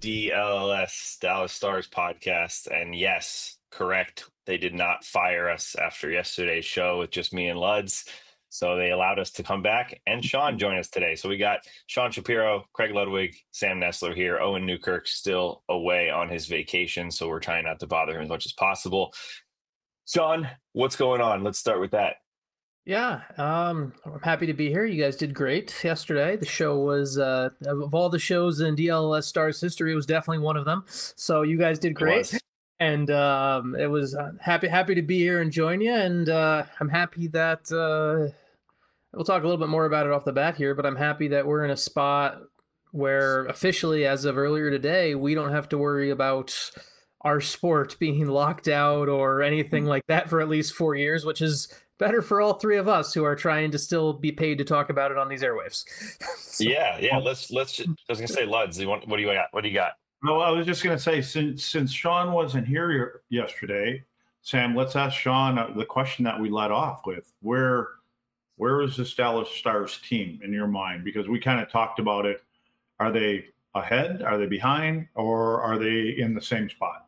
DLS, Dallas Stars podcast. And yes, correct. They did not fire us after yesterday's show with just me and Luds. So they allowed us to come back and Sean join us today. So we got Sean Shapiro, Craig Ludwig, Sam Nestler here. Owen Newkirk still away on his vacation. So we're trying not to bother him as much as possible. Sean, what's going on? Let's start with that. Yeah, I'm happy to be here. You guys did great yesterday. The show was, of all the shows in DLS Stars history, it was definitely one of them. So you guys did great. And it was happy to be here and join you. And I'm happy that we'll talk a little bit more about it off the bat here, but I'm happy that we're in a spot where officially, as of earlier today, we don't have to worry about our sport being locked out or anything like that for at least 4 years, which is better for all three of us who are trying to still be paid to talk about it on these airwaves. So, yeah. Let's just, I was gonna say, Luds, what do you got? What do you got? No, I was just gonna say, since Sean wasn't here yesterday, Sam, let's ask Sean the question that we led off with. Where is the Dallas Stars team in your mind? Because we kind of talked about it. Are they ahead? Are they behind? Or are they in the same spot?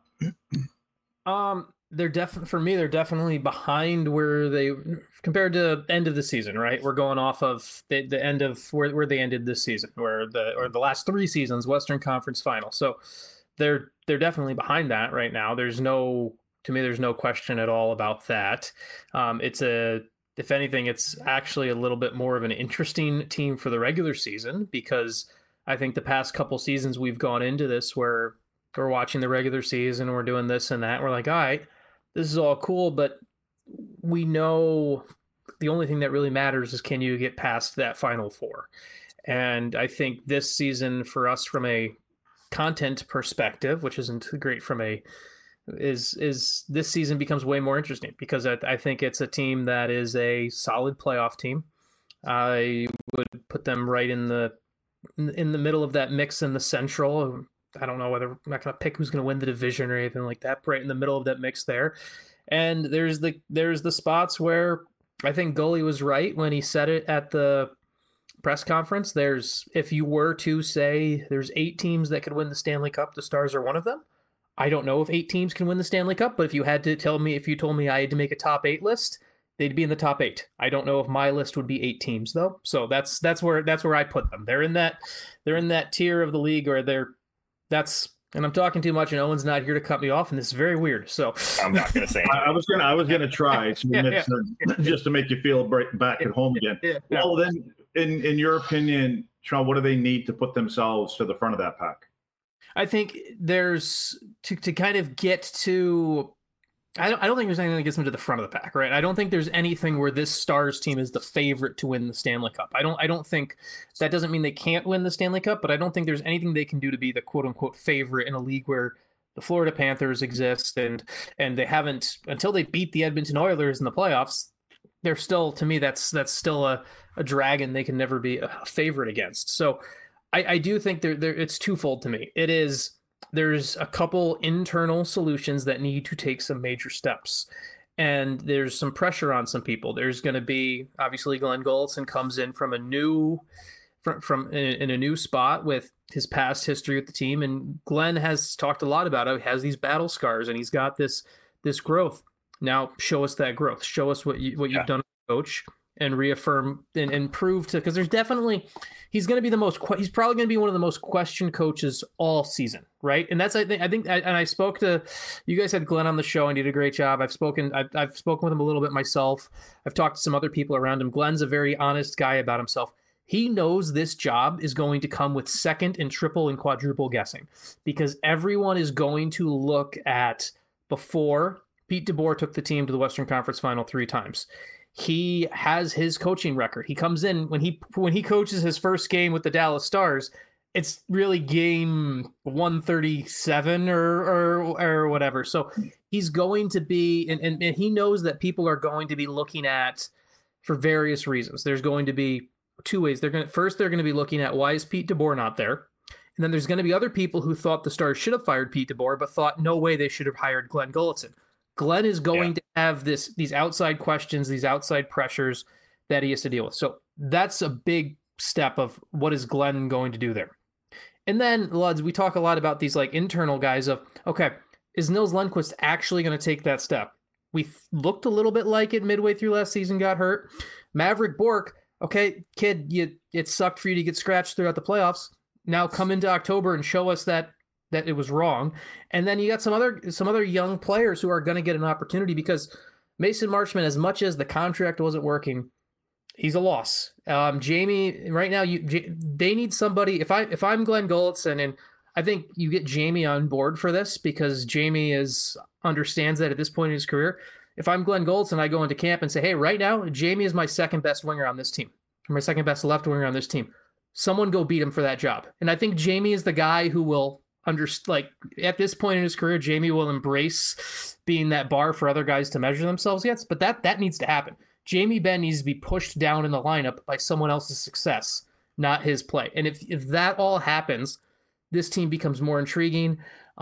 They're definitely behind where they compared to end of the season, right? We're going off of the end of where they ended this season, or the last 3 seasons, Western Conference Final. So they're definitely behind that right now. There's no question at all about that. If anything, it's actually a little bit more of an interesting team for the regular season, because I think the past couple seasons we've gone into this where we're watching the regular season, we're doing this and that. We're like, all right, this is all cool, but we know the only thing that really matters is, can you get past that Final Four? And I think this season for us, from a content perspective, which isn't great is this season becomes way more interesting, because I think it's a team that is a solid playoff team. I would put them right in the middle of that mix in the Central. I don't know whether, I'm not going to pick who's going to win the division or anything like that, but right in the middle of that mix there. And there's the spots where I think Gully was right when he said it at the press conference. If you were to say there's 8 teams that could win the Stanley Cup, the Stars are one of them. I don't know if 8 teams can win the Stanley Cup, but if you told me I had to make a top 8 list, they'd be in the top 8. I don't know if my list would be 8 teams though. So that's where I put them. They're in that tier of the league where and I'm talking too much, and Owen's not here to cut me off, and this is very weird. So I'm not going to say anything. I was gonna try just to make you feel back at home again. Well, then, in your opinion, Sean, what do they need to put themselves to the front of that pack? I think there's to kind of get to. I don't think there's anything that gets them to the front of the pack, right? I don't think there's anything where this Stars team is the favorite to win the Stanley Cup. I don't think that doesn't mean they can't win the Stanley Cup, but I don't think there's anything they can do to be the quote unquote favorite in a league where the Florida Panthers exist and they haven't, until they beat the Edmonton Oilers in the playoffs. They're still, to me, that's still a dragon they can never be a favorite against. So I do think it's twofold to me. There's a couple internal solutions that need to take some major steps, and there's some pressure on some people. There's going to be, obviously, Glenn Gulutzan comes in from a new spot with his past history with the team, and Glenn has talked a lot about it. He has these battle scars, and he's got this growth. Now, show us that growth. Show us what you've done as a coach, and reaffirm and prove to, because there's definitely, he's probably going to be one of the most questioned coaches all season, right? And that's, I think, and I spoke to, you guys had Glenn on the show and he did a great job. I've spoken with him a little bit myself. I've talked to some other people around him. Glenn's a very honest guy about himself. He knows this job is going to come with second and triple and quadruple guessing, because everyone is going to look at, before Pete DeBoer took the team to the Western Conference Final 3 times. He has his coaching record. He comes in when he coaches his first game with the Dallas Stars. It's really game 137 or whatever. So he's going to be, and he knows that people are going to be looking at, for various reasons. There's going to be 2 ways. They're going to be looking at, why is Pete DeBoer not there? And then there's going to be other people who thought the Stars should have fired Pete DeBoer, but thought no way they should have hired Glenn Gulutzan. Glenn is going to have these outside questions, these outside pressures that he has to deal with. So that's a big step of what is Glenn going to do there. And then, Luds, we talk a lot about these like internal guys of, okay, is Nils Lundqvist actually going to take that step? We looked a little bit like it midway through last season, got hurt. Maverick Bourque, okay, kid, it sucked for you to get scratched throughout the playoffs. Now come into October and show us that it was wrong. And then you got some other young players who are going to get an opportunity, because Mason Marchment, as much as the contract wasn't working, he's a loss. Jamie, right now, they need somebody. If I'm Glenn Gulletson, and I think you get Jamie on board for this, because Jamie understands that at this point in his career. If I'm Glenn Gulletson, I go into camp and say, hey, right now, Jamie is my second best winger on this team, or my second best left winger on this team. Someone go beat him for that job. And I think Jamie is the guy who will at this point in his career, Jamie will embrace being that bar for other guys to measure themselves against. But that needs to happen. Jamie Benn needs to be pushed down in the lineup by someone else's success, not his play. And if that all happens, this team becomes more intriguing.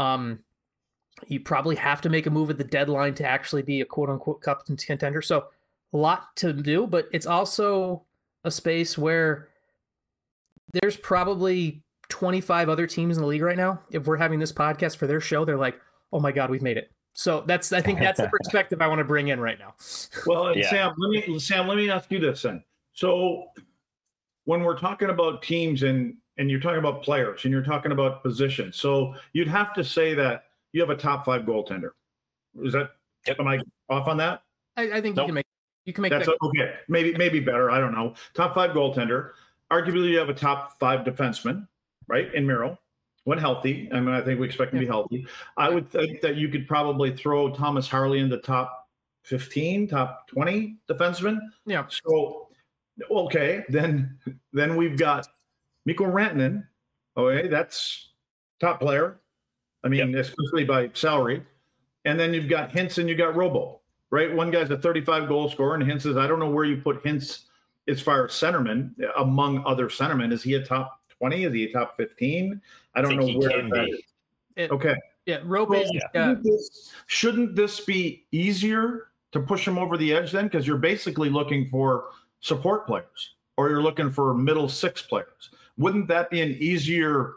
You probably have to make a move at the deadline to actually be a quote-unquote cup contender. So a lot to do, but it's also a space where there's probably 25 other teams in the league right now. If we're having this podcast for their show, they're like, oh my God, we've made it. So I think that's the perspective I want to bring in right now. Well, yeah. Sam, let me ask you this then. So when we're talking about teams and you're talking about players and you're talking about positions, so you'd have to say that you have a top 5 goaltender. Is that, am I off on that? I think you can make that's that. Okay. Maybe better. I don't know. Top 5 goaltender. Arguably you have a top 5 defenseman, right? In Miro, when healthy. I mean, I think we expect him to be healthy. I would think that you could probably throw Thomas Harley in the top 15, top 20 defenseman. Yeah. So, okay, then we've got Mikko Rantanen. Okay, that's top player. I mean, especially by salary. And then you've got Hintz and you got Robo, right? One guy's a 35 goal scorer, and Hintz is, I don't know where you put Hintz as far as centerman among other centermen. Is he a top 20? Is he a top 15? I don't know where that is. Okay. Yeah, Robo. Shouldn't this be easier to push him over the edge then? Because you're basically looking for support players, or you're looking for middle 6 players. Wouldn't that be an easier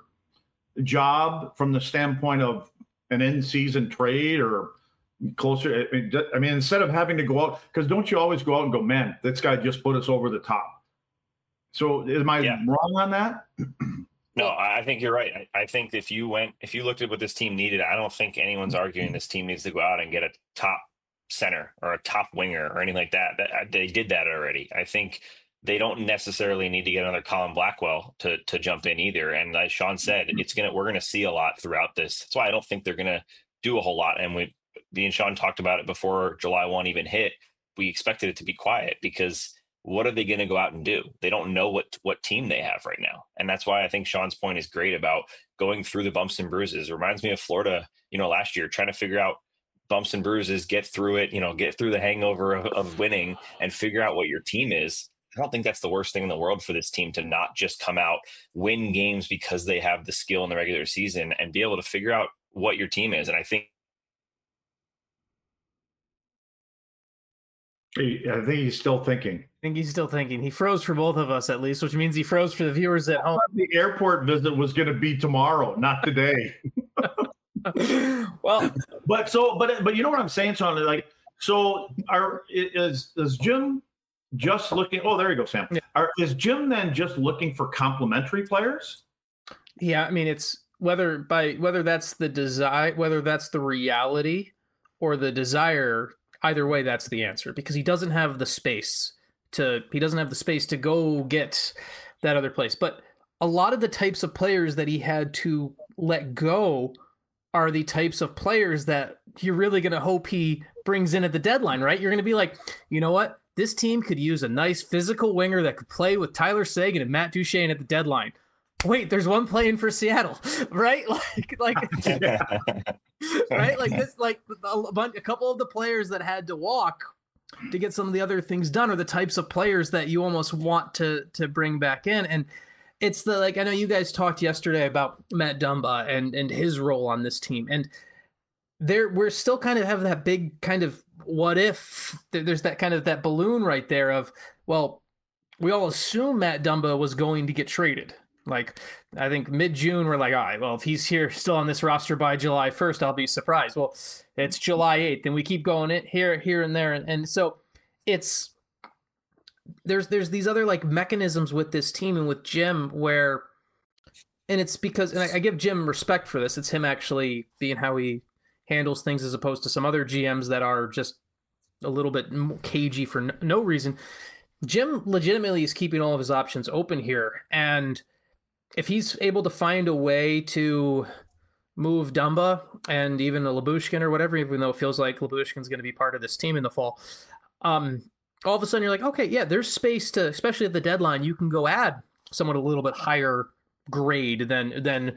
job from the standpoint of an in-season trade or closer? I mean, instead of having to go out, because don't you always go out and go, man, this guy just put us over the top. So am I wrong on that? No, I think you're right. I think if you looked at what this team needed, I don't think anyone's arguing this team needs to go out and get a top center or a top winger or anything like that. They did that already. I think they don't necessarily need to get another Colin Blackwell to jump in either. And as Sean said, we're going to see a lot throughout this. That's why I don't think they're going to do a whole lot. And me and Sean talked about it before July 1 even hit. We expected it to be quiet, because what are they going to go out and do? They don't know what team they have right now. And that's why I think Sean's point is great about going through the bumps and bruises. It reminds me of Florida, last year, trying to figure out bumps and bruises, get through it, get through the hangover of winning and figure out what your team is. I don't think that's the worst thing in the world for this team, to not just come out, win games because they have the skill in the regular season, and be able to figure out what your team is. And I think he's still thinking. He froze for both of us, at least, which means he froze for the viewers at home. The airport visit was going to be tomorrow, not today. Well, but you know what I'm saying, Sean? Like, so is Jim just looking? Oh, there you go, Sam. Yeah. Is Jim then just looking for complementary players? Yeah, I mean, it's whether that's the desire, whether that's the reality or the desire. Either way, that's the answer, because he doesn't have the space to go get that other place. But a lot of the types of players that he had to let go are the types of players that you're really going to hope he brings in at the deadline, right? You're going to be like, you know what? This team could use a nice physical winger that could play with Tyler Seguin and Matt Duchene at the deadline. Wait, there's one playing for Seattle, right? Like, right? Like this, like a couple of the players that had to walk to get some of the other things done are the types of players that you almost want to bring back in. And it's I know you guys talked yesterday about Matt Dumba and his role on this team. And we're still kind of have that big kind of what if. There's that kind of that balloon right there of, well, we all assume Matt Dumba was going to get traded. Like, I think mid-June, we're like, all right, well, if he's here still on this roster by July 1st, I'll be surprised. Well, it's July 8th, and we keep going it here and there. And so it's there's these other like mechanisms with this team and with Jim where, and it's because, and I give Jim respect for this. It's him actually being how he handles things as opposed to some other GMs that are just a little bit cagey for no reason. Jim legitimately is keeping all of his options open here. And if he's able to find a way to move Dumba and even a Lyubushkin or whatever, even though it feels like Lyubushkin's going to be part of this team in the fall, all of a sudden you're like, okay, yeah, there's space to, especially at the deadline, you can go add someone a little bit higher grade than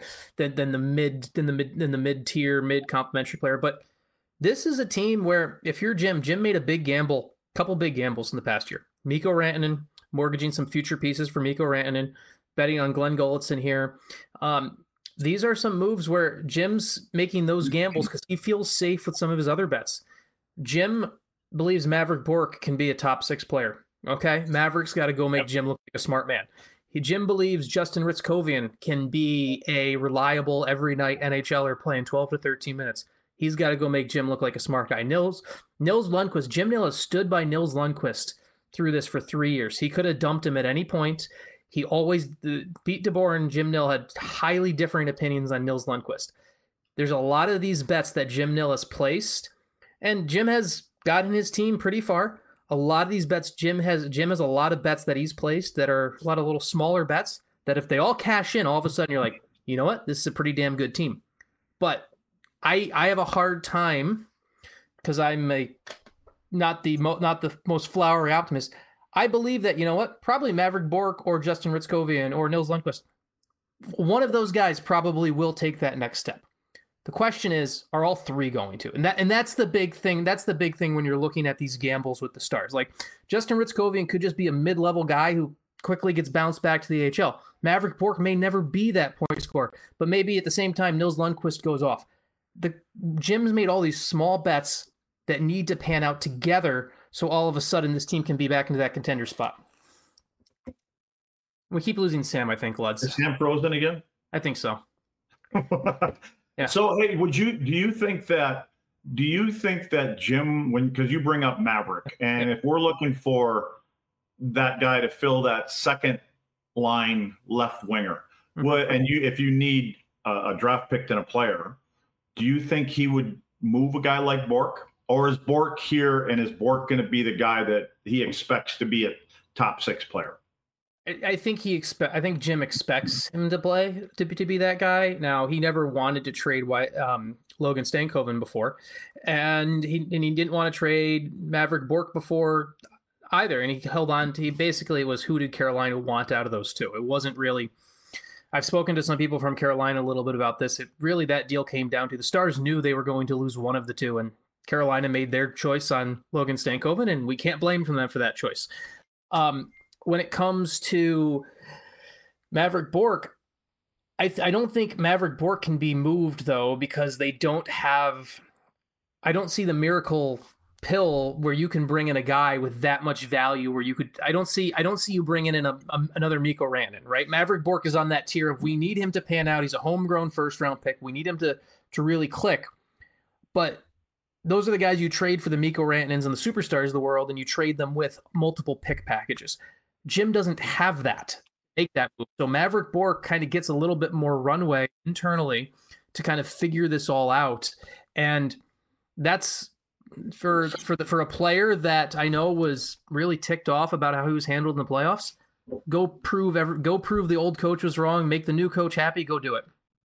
the mid-tier, mid-complimentary player. But this is a team where if you're Jim made a big gamble, couple big gambles in the past year. Mikko Rantanen, mortgaging some future pieces for Mikko Rantanen, betting on Glenn Gulutzan here. These are some moves where Jim's making those gambles because he feels safe with some of his other bets. Jim believes Mavrik Bourque can be a top 6 player. Okay, Mavericks got to go make Jim look like a smart man. Jim believes Justin Ritzkovian can be a reliable every night NHLer playing 12 to 13 minutes. He's got to go make Jim look like a smart guy. Nils Lundqvist, Jim Nill has stood by Nils Lundqvist through this for 3 years. He could have dumped him at any point. He always, Pete DeBoer and Jim Nill had highly differing opinions on Nils Lundqvist. There's a lot of these bets that Jim Nill has placed, and Jim has gotten his team pretty far. A lot of these bets, Jim has a lot of bets that he's placed that are a lot of little smaller bets that if they all cash in, all of a sudden you're like, you know what? This is a pretty damn good team. But I have a hard time because I'm not the most flowery optimist. I believe that, you know what? Probably Mavrik Bourque or Justin Ritzkovian or Nils Lundqvist. One of those guys probably will take that next step. The question is, are all three going to? And that's the big thing. That's the big thing when you're looking at these gambles with the Stars. Like Justin Ritzkovian could just be a mid-level guy who quickly gets bounced back to the AHL. Mavrik Bourque may never be that point scorer, but maybe at the same time Nils Lundqvist goes off. The Jim's made all these small bets that need to pan out together, so all of a sudden this team can be back into that contender spot. We keep losing Sam, I think, Luds. Is Sam frozen again? I think so. Yeah. So, hey, do you think that Jim, because you bring up Mavrik, and if we're looking for that guy to fill that second line left winger, if you need a draft pick and a player, do you think he would move a guy like Bourque? Or is Bourque here, and is Bourque going to be the guy that he expects to be a top 6 player? I think Jim expects him to play to be that guy. Now, he never wanted to trade Logan Stankoven before, and he didn't want to trade Mavrik Bourque before either. And he held on to, basically it was who did Carolina want out of those two? It wasn't really. I've spoken to some people from Carolina a little bit about this. That deal came down to the Stars knew they were going to lose one of the two, and Carolina made their choice on Logan Stankoven, and we can't blame them for that choice. When it comes to Mavrik Bourque, I don't think Mavrik Bourque can be moved, though, because they don't have – I don't see the miracle pill where you can bring in a guy with that much value where you could – I don't see you bringing in another Mikko Rantanen, right? Mavrik Bourque is on that tier of we need him to pan out. He's a homegrown first-round pick. We need him to really click. But – those are the guys you trade for the Mikko Rantanens and the superstars of the world, and you trade them with multiple pick packages. Jim doesn't have that. Make that move. So Mavrik Bourque kind of gets a little bit more runway internally to kind of figure this all out. And that's for a player that I know was really ticked off about how he was handled in the playoffs. Go prove the old coach was wrong, make the new coach happy, go do it.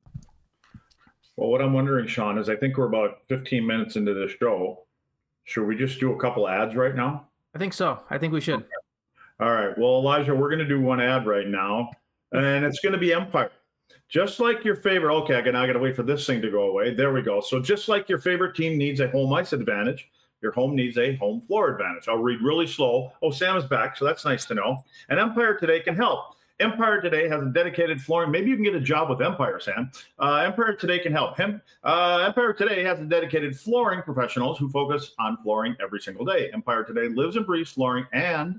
Well, what I'm wondering, Sean, is I think we're about 15 minutes into this show. Should we just do a couple ads right now? I think so. I think we should. Okay. All right. Well, Elijah, we're going to do one ad right now, and it's going to be Empire. Just like your favorite – okay, I got to wait for this thing to go away. There we go. So just like your favorite team needs a home ice advantage, your home needs a home floor advantage. I'll read really slow. Oh, Sam is back, so that's nice to know. And Empire Today can help. Empire Today has a dedicated flooring. Maybe you can get a job with Empire, Sam. Empire Today can help him. Empire Today has a dedicated flooring professionals who focus on flooring every single day. Empire Today lives and breathes flooring, and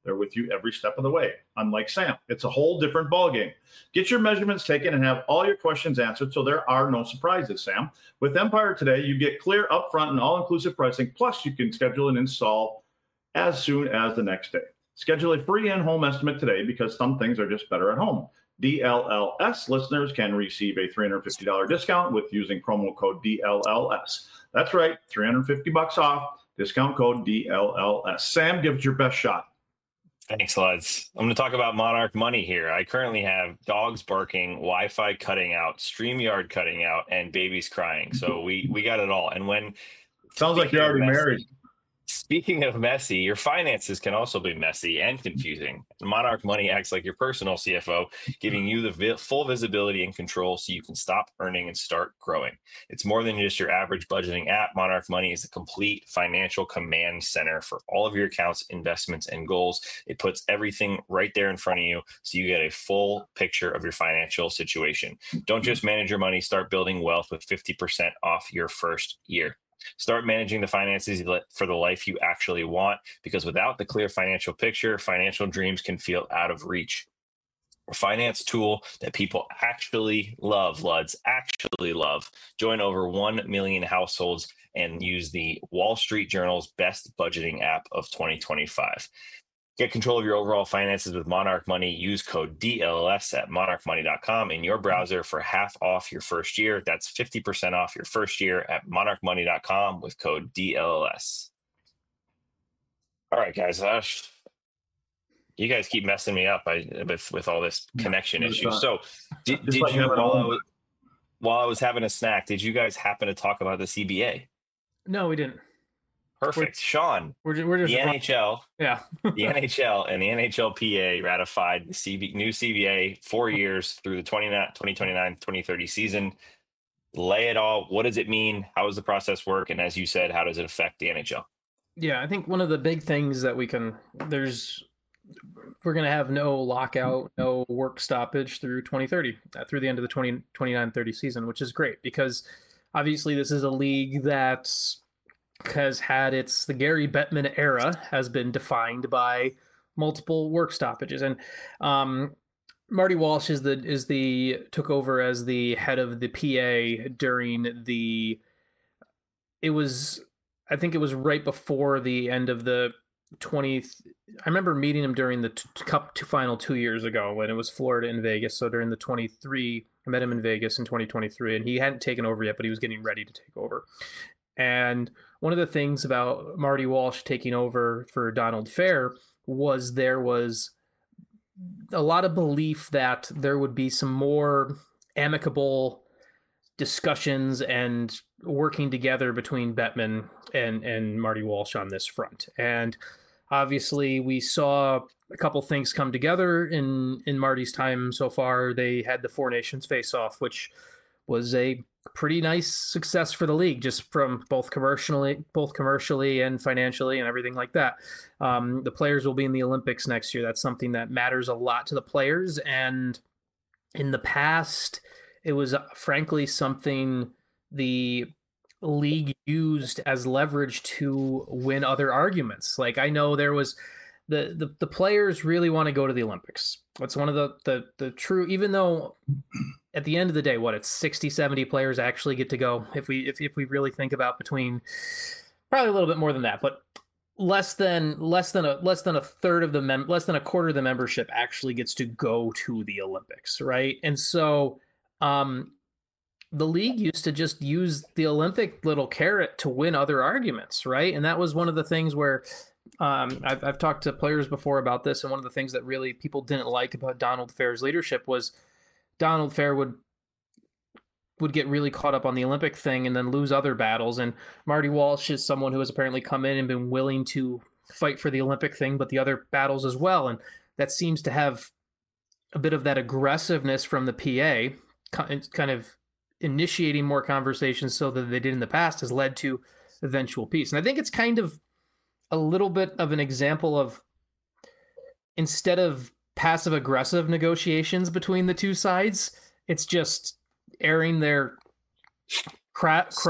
They're with you every step of the way. Unlike Sam, it's a whole different ballgame. Get your measurements taken and have all your questions answered so there are no surprises, Sam. With Empire today, you get clear, upfront, and all-inclusive pricing, plus you can schedule an install as soon as the next day. Schedule a free in-home estimate today because some things are just better at home. DLLS listeners can receive a $350 discount with using promo code DLLS. That's right, $350 off, discount code DLLS. Sam, give it your best shot. Thanks, Luds. I'm going to talk about Monarch Money here. I currently have dogs barking, Wi-Fi cutting out, StreamYard cutting out, and babies crying. So we got it all. And when sounds like you're already married. Speaking of messy, your finances can also be messy and confusing. Monarch Money acts like your personal CFO, giving you the full visibility and control so you can stop earning and start growing. It's more than just your average budgeting app. Monarch Money is a complete financial command center for all of your accounts, investments, and goals. It puts everything right there in front of you so you get a full picture of your financial situation. Don't just manage your money, start building wealth with 50% off your first year. Start managing the finances for the life you actually want, because without the clear financial picture, financial dreams can feel out of reach. A finance tool that people actually love, Luds, actually love. Join over 1 million households and use the Wall Street Journal's best budgeting app of 2025. Get control of your overall finances with Monarch Money. Use code DLLS at monarchmoney.com in your browser for half off your first year. That's 50% off your first year at monarchmoney.com with code DLLS. All right, guys. You guys keep messing me up with all this connection issues. So did you, while I was having a snack, did you guys happen to talk about the CBA? No, we didn't. Perfect. Sean, we're just the NHL, yeah, the NHL and the NHLPA ratified the new CBA 4 years through the 2029-2030 season. Lay it all. What does it mean? How does the process work? And as you said, how does it affect the NHL? Yeah, I think one of the big things that we're going to have no lockout, no work stoppage through 2030, through the end of the 2029-30 season, which is great because obviously this is a league that's has had the Gary Bettman era has been defined by multiple work stoppages, and Marty Walsh took over as the head of the PA during I think it was right before the end of the 20th. I remember meeting him during the Cup final 2 years ago when it was Florida and Vegas. So during the 23, I met him in Vegas in 2023, and he hadn't taken over yet, but he was getting ready to take over. And one of the things about Marty Walsh taking over for Donald Fair was there was a lot of belief that there would be some more amicable discussions and working together between Bettman and Marty Walsh on this front. And obviously we saw a couple things come together in Marty's time so far. They had the Four Nations face-off, which was a pretty nice success for the league, just from both commercially and financially and everything like that. The players will be in the Olympics next year. That's something that matters a lot to the players. And in the past, it was frankly something the league used as leverage to win other arguments. Like, I know there was the players really want to go to the Olympics. It's one of the true, even though at the end of the day, it's 60, 70 players actually get to go. If we really think about between, probably a little bit more than that, but less than a third of less than a quarter of the membership actually gets to go to the Olympics. Right. And so, the league used to just use the Olympic little carrot to win other arguments. Right. And that was one of the things where, I've talked to players before about this, and one of the things that really people didn't like about Donald Fair's leadership was Donald Fair would get really caught up on the Olympic thing and then lose other battles. And Marty Walsh is someone who has apparently come in and been willing to fight for the Olympic thing, but the other battles as well. And that seems to have a bit of that aggressiveness from the PA, kind of initiating more conversations so that they did in the past, has led to eventual peace. And I think it's kind of a little bit of an example of, instead of passive aggressive negotiations between the two sides, it's just airing their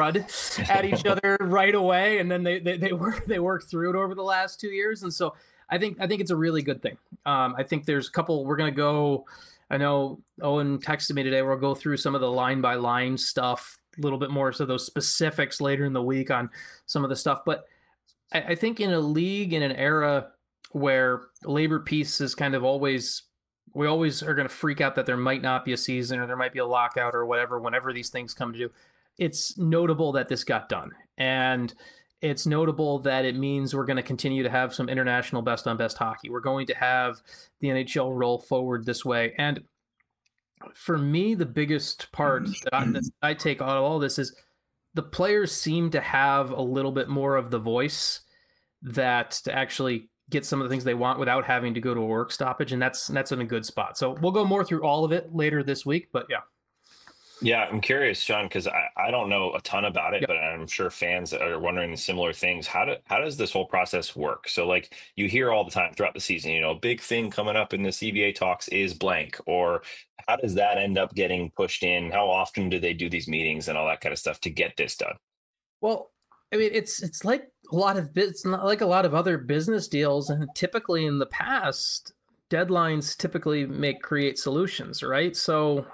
crud at each other right away, and then they work through it over the last 2 years. And so I think it's a really good thing. I think there's a couple we're going to go. I know Owen texted me today. We'll go through some of the line by line stuff, a little bit more, so those specifics later in the week on some of the stuff. But I think in a league, in an era where labor peace is kind of always, we always are going to freak out that there might not be a season or there might be a lockout or whatever, whenever these things come to do. It's notable that this got done. And it's notable that it means we're going to continue to have some international best on best hockey. We're going to have the NHL roll forward this way. And for me, the biggest part that I take out of all this is the players seem to have a little bit more of the voice that to actually get some of the things they want without having to go to a work stoppage. And that's in a good spot. So we'll go more through all of it later this week, but yeah. Yeah, I'm curious, Sean, because I don't know a ton about it, but I'm sure fans are wondering similar things. How does this whole process work? So, like, you hear all the time throughout the season, big thing coming up in the CBA talks is blank, or how does that end up getting pushed in? How often do they do these meetings and all that kind of stuff to get this done? Well, I mean, it's like it's not like a lot of other business deals, and typically in the past, deadlines typically create solutions, right? So,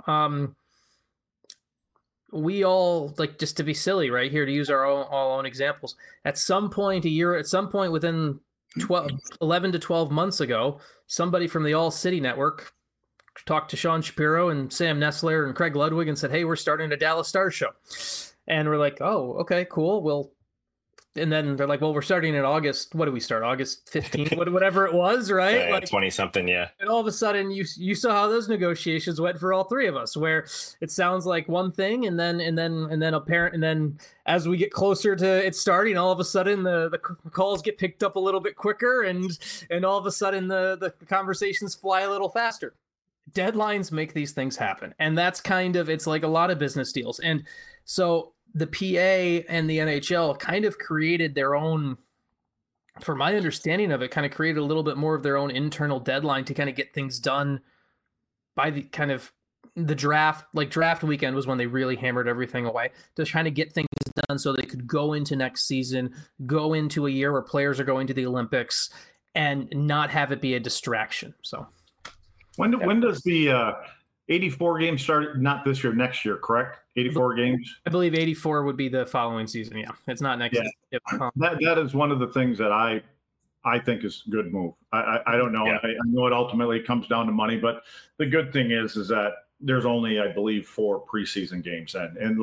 we all, like, just to be silly right here, to use our own examples, at some point within 11 to 12 months ago, somebody from the All City Network talked to Sean Shapiro and Sam Nessler and Craig Ludwig and said, hey, we're starting a Dallas Stars show. And we're like, oh, okay, cool. Well, and then they're like, well, we're starting in August. What do we start? August 15th, whatever it was, right? Yeah, like 20 something. Yeah. And all of a sudden you saw how those negotiations went for all three of us, where it sounds like one thing. And then as we get closer to it starting, all of a sudden the calls get picked up a little bit quicker. And all of a sudden the conversations fly a little faster. Deadlines make these things happen. And that's it's like a lot of business deals. And so the PA and the NHL kind of created their own, for my understanding of it, kind of created a little bit more of their own internal deadline to kind of get things done by the draft. Like, draft weekend was when they really hammered everything away to try to get things done so they could go into next season, go into a year where players are going to the Olympics and not have it be a distraction. So when does the 84 games start? Not this year, next year, correct? 84 games? I believe 84 would be the following season. Yeah, it's not next season. Yep. That is one of the things that I think is a good move. I don't know. Yeah. I know it ultimately comes down to money, but the good thing is that there's only, I believe, 4 preseason games in. And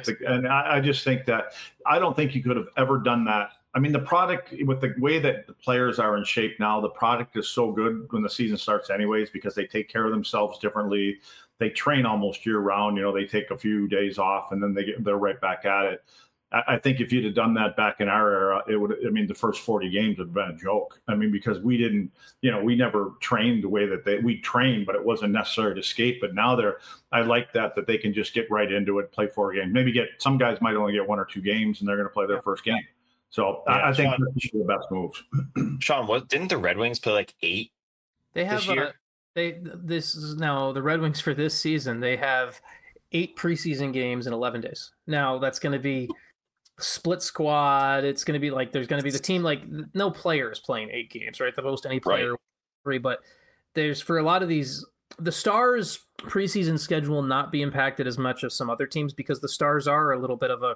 I just think that I don't think you could have ever done that. I mean, the product, with the way that the players are in shape now, the product is so good when the season starts anyways, because they take care of themselves differently. They train almost year round. They take a few days off and then they're right back at it. I think if you'd have done that back in our era, the first 40 games would have been a joke. I mean, because we didn't, we never trained the way that we trained, but it wasn't necessary to skate. But now I like that they can just get right into it, play 4 games, maybe some guys might only get 1 or 2 games and they're going to play their first game. So yeah, I think that's the best moves. Sean, didn't the Red Wings play like 8 they have this year? This is now the Red Wings for this season. They have 8 preseason games in 11 days. Now that's going to be split squad. It's going to be like, there's going to be the team, like, no player is playing 8 games, right? The most any player, right. 3, but there's, for a lot of these, the Stars preseason schedule will not be impacted as much as some other teams, because the Stars are a little bit of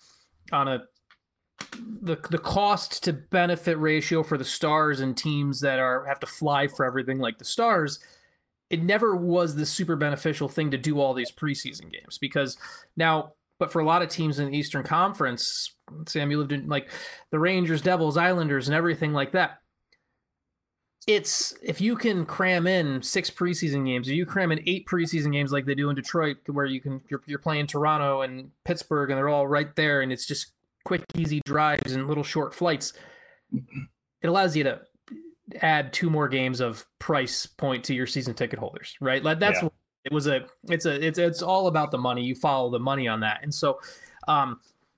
the cost to benefit ratio for the Stars and teams that have to fly for everything like the Stars. It never was the super beneficial thing to do all these preseason games, because now, but for a lot of teams in the Eastern Conference, Sam, you lived in like the Rangers, Devils, Islanders, and everything like that. It's, if you can cram in 6 preseason games, if you cram in 8 preseason games like they do in Detroit, where you're playing Toronto and Pittsburgh and they're all right there, and it's just quick, easy drives and little short flights, it allows you to add 2 more games of price point to your season ticket holders, right? Like that's what it was. It's all about the money. You follow the money on that. And so, I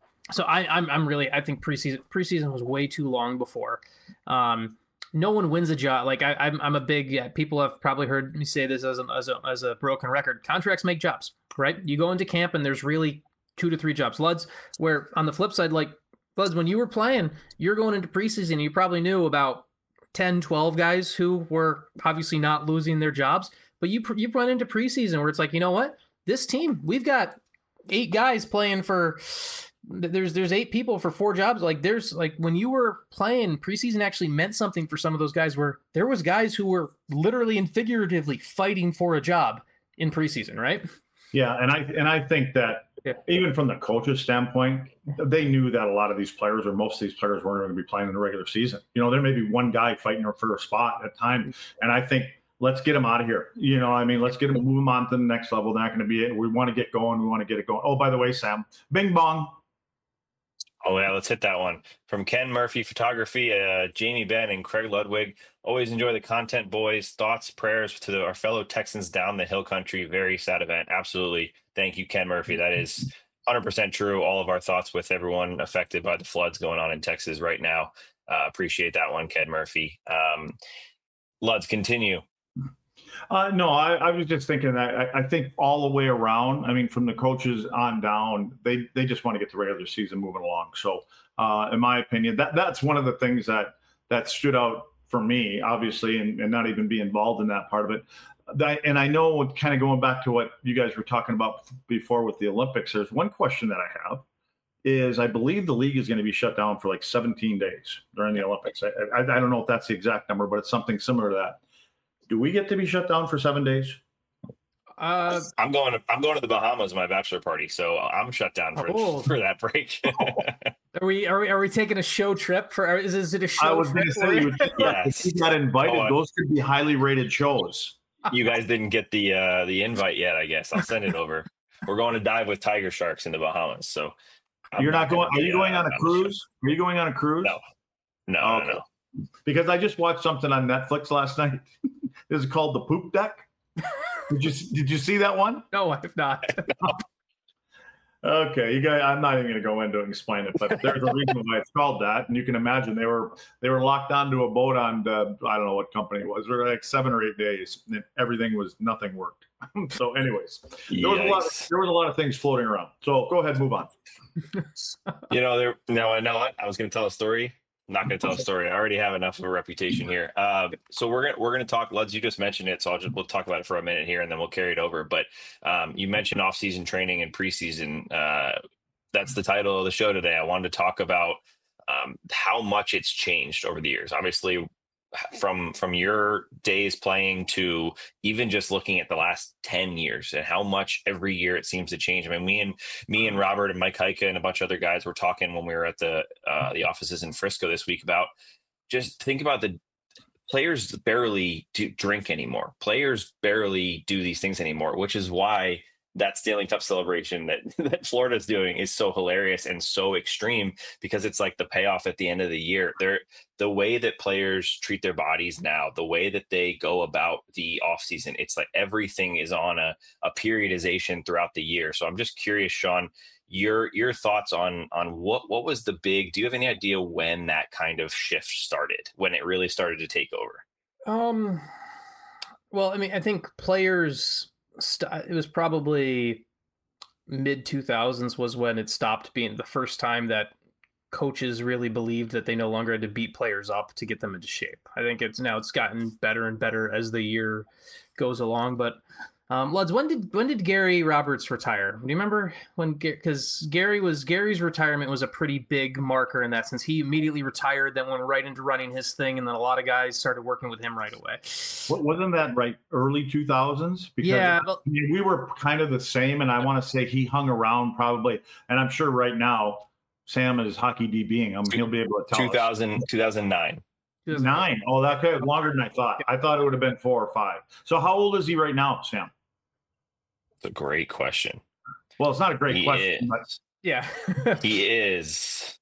think preseason was way too long before. No one wins a job. Like I'm a big, people have probably heard me say this as a broken record. Contracts make jobs, right? You go into camp and there's really 2 to 3 jobs. Luds, where on the flip side, like Luds, when you were playing, you're going into preseason, you probably knew about 10, 12 guys who were obviously not losing their jobs, but you run into preseason where it's like, you know what? This team, we've got 8 guys playing for, there's 8 people for 4 jobs. Like there's like when you were playing, preseason actually meant something for some of those guys where there was guys who were literally and figuratively fighting for a job in preseason, right? Yeah, and I think that even from the coach's standpoint, they knew that a lot of these players or most of these players weren't going to be playing in the regular season. There may be one guy fighting for a spot at a time, and I think let's get him out of here. Let's get him, move him on to the next level. They're not going to be it. We want to get going. We want to get it going. Oh, by the way, Sam, bing bong. Oh, yeah, let's hit that one. From Ken Murphy Photography, Jamie Benn, and Craig Ludwig. Always enjoy the content, boys. Thoughts, prayers to our fellow Texans down the hill country. Very sad event. Absolutely. Thank you, Ken Murphy. That is 100% true. All of our thoughts with everyone affected by the floods going on in Texas right now. Appreciate that one, Ken Murphy. Luds, continue. No, I was just thinking that I think all the way around, from the coaches on down, they just want to get the regular season moving along. So, in my opinion, that's one of the things that stood out for me, obviously, and not even be involved in that part of it. And I know, kind of going back to what you guys were talking about before with the Olympics, there's one question that I have is I believe the league is going to be shut down for like 17 days during the Olympics. I don't know if that's the exact number, but it's something similar to that. Do we get to be shut down for 7 days? I'm going to the Bahamas, my bachelor party, so I'm shut down for that break. Are we taking a show trip for? Is it a show? I was going to say, if you got invited, those could be highly rated shows. You guys didn't get the invite yet, I guess. I'll send it over. We're going to dive with tiger sharks in the Bahamas. So you're not going. Are you going on a cruise? Are you going on a cruise? No. Because I just watched something on Netflix last night. This is called The Poop Deck. Did you see that one? No, I have not. Okay, you guys. I'm not even going to go into it and explain it, but there's a reason why it's called that, and you can imagine they were locked onto a boat on I don't know what company it was. They were like 7 or 8 days, and nothing worked. So, anyways, there was a lot of things floating around. So go ahead, move on. I was going to tell a story. I'm not going to tell a story. I already have enough of a reputation here. So we're going to talk. Luds, you just mentioned it, so we'll talk about it for a minute here, and then we'll carry it over. But you mentioned off-season training and preseason. That's the title of the show today. I wanted to talk about how much it's changed over the years. Obviously, from your days playing to even just looking at the last 10 years and how much every year it seems to change. Me and Robert and Mike Heika and a bunch of other guys were talking when we were at the offices in Frisco this week about just think about the players barely drink anymore. Players barely do these things anymore, which is why that Stanley Cup celebration that Florida's doing is so hilarious and so extreme, because it's like the payoff at the end of the year. The way that players treat their bodies now, the way that they go about the offseason, it's like everything is on a periodization throughout the year. So I'm just curious, Sean, your thoughts on what was the big, do you have any idea when that kind of shift started, when it really started to take over? Well, I think players, it was probably mid 2000s was when it stopped being the first time that coaches really believed that they no longer had to beat players up to get them into shape. I think it's gotten better and better as the year goes along. But Luds, when did Gary Roberts retire? Do you remember when? Because Gary's retirement was a pretty big marker in that sense. He immediately retired, then went right into running his thing, and then a lot of guys started working with him right away. Wasn't that right? Early 2000s? Because we were kind of the same, and I want to say he hung around probably, and I'm sure right now Sam is hockey DBing. He'll be able to tell 2009. 9. Oh, that could longer than I thought. I thought it would have been 4 or 5. So how old is he right now, Sam? It's a great question. Well, it's not a great question, but yeah. He is.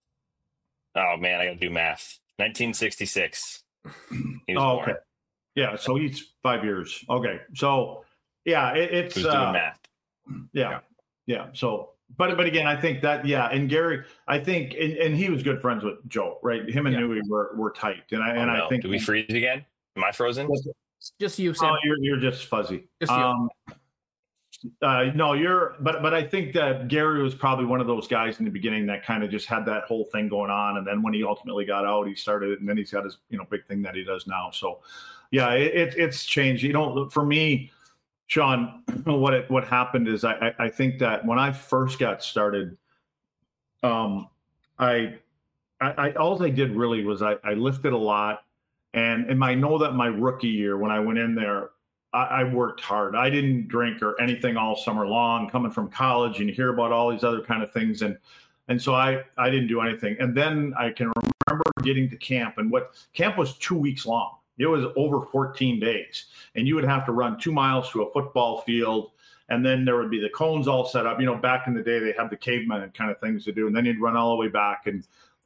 Oh man, I got to do math. 1966. He was born. Okay. Yeah, so he's 5 years. Okay. So yeah, it's who's doing math. Yeah. So but again, I think that and Gary, I think and he was good friends with Joe, right? Him and Nui were tight. And I think, do we freeze again? Am I frozen? Just you, Sam. Oh, you're just fuzzy. Just you. No, but I think that Gary was probably one of those guys in the beginning that kind of just had that whole thing going on. And then when he ultimately got out, he started it, and then he's got his, big thing that he does now. So yeah, it's changed. For me, Sean, what happened is I think that when I first got started, all I did really was I lifted a lot. And I know that my rookie year, when I went in there, I worked hard. I didn't drink or anything all summer long, coming from college, and you hear about all these other kind of things. And so I didn't do anything. And then I can remember getting to camp, and camp was 2 weeks long. It was over 14 days, and you would have to run 2 miles to a football field. And then there would be the cones all set up. Back in the day, they had the caveman kind of things to do. And then you'd run all the way back. And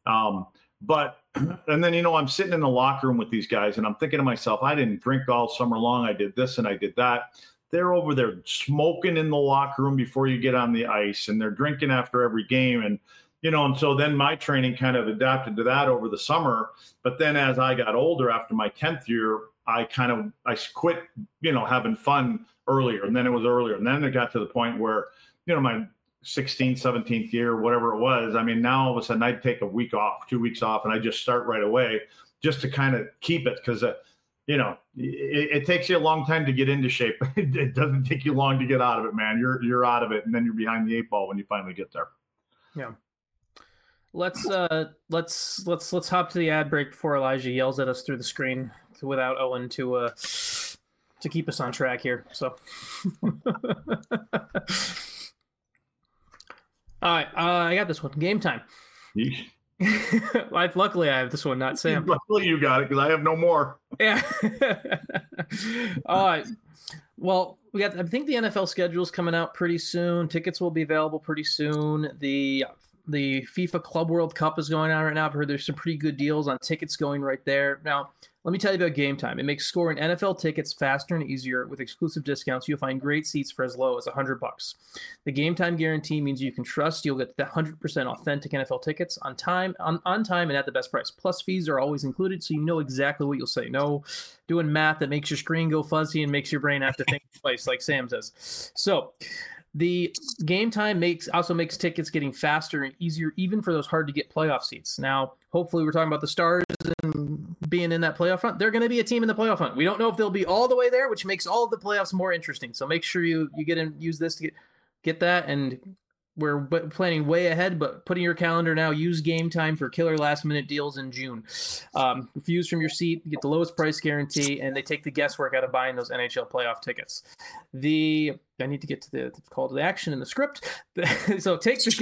then, I'm sitting in the locker room with these guys, and I'm thinking to myself, I didn't drink all summer long. I did this and I did that. They're over there smoking in the locker room before you get on the ice, and they're drinking after every game. And so then my training kind of adapted to that over the summer. But then as I got older, after my 10th year, I quit, having fun earlier. And then it was earlier. And then it got to the point where, my 16th, 17th year, whatever it was. I mean, now all of a sudden I'd take a week off, 2 weeks off, and I just start right away just to kind of keep it. Cause it takes you a long time to get into shape. It doesn't take you long to get out of it, man. You're out of it. And then you're behind the 8 ball when you finally get there. Yeah. Let's hop to the ad break before Elijah yells at us through the screen without Owen to keep us on track here. So, all right, I got this one. Game time. Luckily, I have this one, not Sam. Luckily, you got it because I have no more. Yeah. All right. Well, I think the NFL schedule is coming out pretty soon. Tickets will be available pretty soon. The FIFA Club World Cup is going on right now. I've heard there's some pretty good deals on tickets going right there. Now, let me tell you about Game Time. It makes scoring NFL tickets faster and easier with exclusive discounts. You'll find great seats for as low as $100. The Game Time guarantee means you can trust you'll get the 100% authentic NFL tickets on time and at the best price. Plus, fees are always included, so you know exactly what you'll say. No doing math that makes your screen go fuzzy and makes your brain have to think twice, like Sam says. So, the Game Time also makes tickets getting faster and easier, even for those hard to get playoff seats. Now, hopefully, we're talking about the Stars and being in that playoff hunt. They're going to be a team in the playoff hunt. We don't know if they'll be all the way there, which makes all of the playoffs more interesting. So make sure you get in, use this to get that. And we're planning way ahead, but put in your calendar now. Use Game Time for killer last-minute deals in June. Refuse from your seat, get the lowest price guarantee, and they take the guesswork out of buying those NHL playoff tickets. I need to get to the call to the action in the script. So take the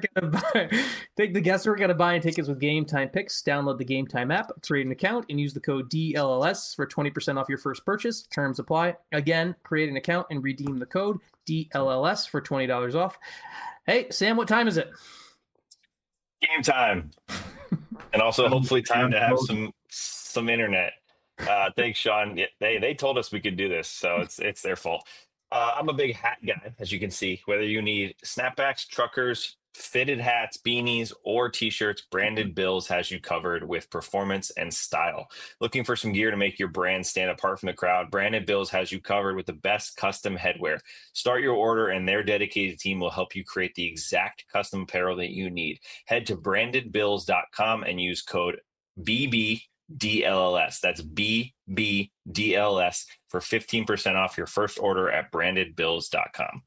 guesswork out of buying tickets with Game Time picks. Download the Game Time app, create an account, and use the code DLLS for 20% off your first purchase. Terms apply. Again, create an account and redeem the code DLLS for $20 off. Hey, Sam, what time is it? Game time. And also hopefully time to have some internet. Thanks, Sean. They told us we could do this, so it's their fault. I'm a big hat guy, as you can see. Whether you need snapbacks, truckers, fitted hats, beanies, or t-shirts, Branded Bills has you covered with performance and style. Looking for some gear to make your brand stand apart from the crowd? Branded Bills has you covered with the best custom headwear. Start your order and their dedicated team will help you create the exact custom apparel that you need. Head to brandedbills.com and use code BBDLLS. That's BBDLS for 15% off your first order at brandedbills.com.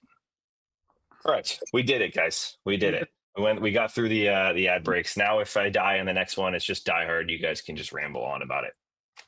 All right, we did it, guys. We did it. We got through the ad breaks. Now, if I die in the next one, it's just Die Hard. You guys can just ramble on about it.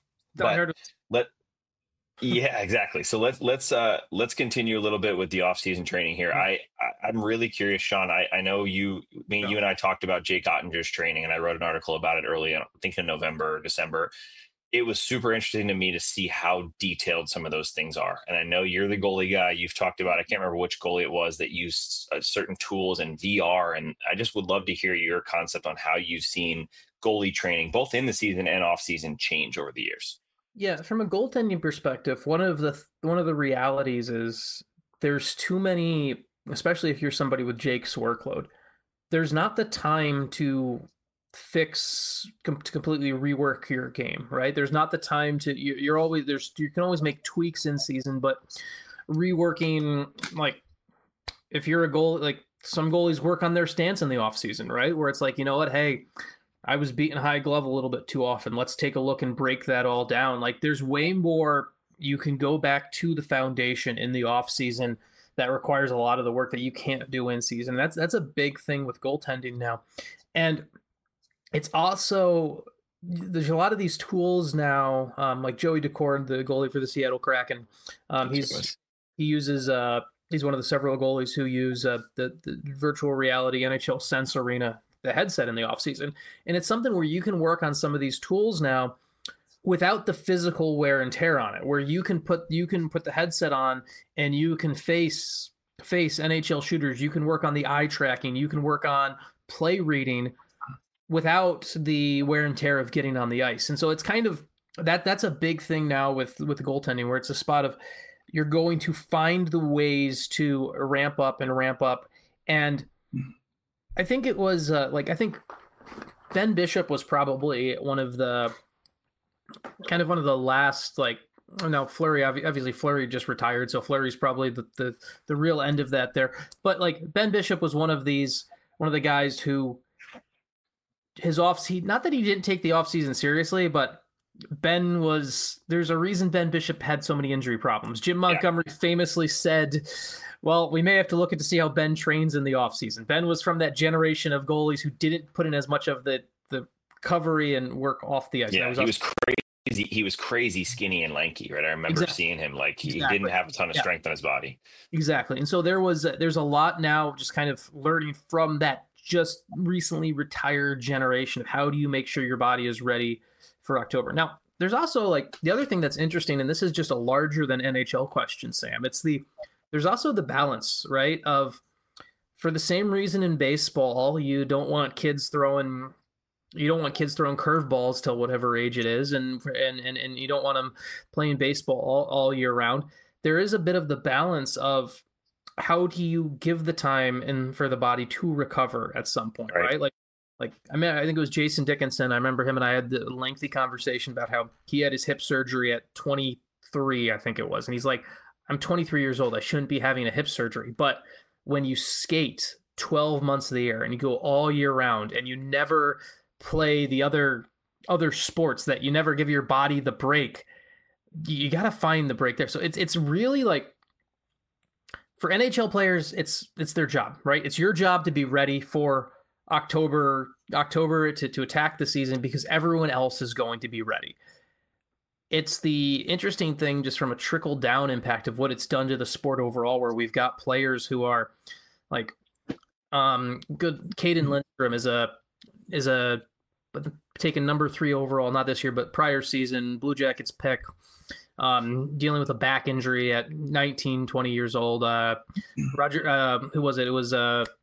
Yeah, exactly. So let's continue a little bit with the off-season training here. I'm really curious, Sean. I know you and I talked about Jake Ottinger's training, and I wrote an article about it early, I think in November or December. It was super interesting to me to see how detailed some of those things are. And I know you're the goalie guy. You've talked about, I can't remember which goalie it was that used certain tools and VR. And I just would love to hear your concept on how you've seen goalie training, both in the season and off season, change over the years. Yeah. From a goaltending perspective, one of the realities is there's too many, especially if you're somebody with Jake's workload, there's not the time to completely rework your game, right? There's not the time to, you can always make tweaks in season, but reworking, like if you're a goal, like some goalies work on their stance in the offseason, right? Where it's like, you know what, hey, I was beating high glove a little bit too often. Let's take a look and break that all down. Like there's way more you can go back to the foundation in the offseason that requires a lot of the work that you can't do in season. That's a big thing with goaltending now. And it's also, there's a lot of these tools now, like Joey Decord, the goalie for the Seattle Kraken. He's one of the several goalies who use the virtual reality NHL Sense Arena, the headset in the offseason. And it's something where you can work on some of these tools now without the physical wear and tear on it, where you can put the headset on and you can face NHL shooters. You can work on the eye tracking. You can work on play reading without the wear and tear of getting on the ice. And so it's kind of that's a big thing now with the goaltending, where it's a spot of you're going to find the ways to ramp up. And I think it was I think Ben Bishop was probably one of the last, like, now Fleury, obviously Fleury just retired, so Fleury's probably the real end of that there. But like Ben Bishop was one of the guys who not that he didn't take the offseason seriously, but there's a reason Ben Bishop had so many injury problems. Jim Montgomery famously said, well, we may have to look to see how Ben trains in the offseason. Ben was from that generation of goalies who didn't put in as much of the recovery and work off the ice. Yeah, he was crazy. He was crazy skinny and lanky, right? I remember seeing him, like he didn't have a ton of strength on his body. Exactly. And so there's a lot now just kind of learning from that just recently retired generation of how do you make sure your body is ready for October. Now, there's also like the other thing that's interesting, and this is just a larger than NHL question, Sam. There's also the balance, right? Of, for the same reason in baseball, you don't want kids throwing curveballs till whatever age it is, and you don't want them playing baseball all year round. There is a bit of the balance of how do you give the time and for the body to recover at some point, right? Like I mean, I think it was Jason Dickinson. I remember him and I had the lengthy conversation about how he had his hip surgery at 23, I think it was, and he's like, I'm 23 years old. I shouldn't be having a hip surgery. But when you skate 12 months of the year and you go all year round and you never play the other sports, that you never give your body the break, you got to find the break there. So it's really like, for NHL players, it's their job, right? It's your job to be ready for October to attack the season, because everyone else is going to be ready. It's the interesting thing just from a trickle down impact of what it's done to the sport overall, where we've got players who are like good. Caden Lindstrom is a taken number 3 overall, not this year, but prior season, Blue Jackets pick, dealing with a back injury at 19, 20 years old. Roger, who was it? It was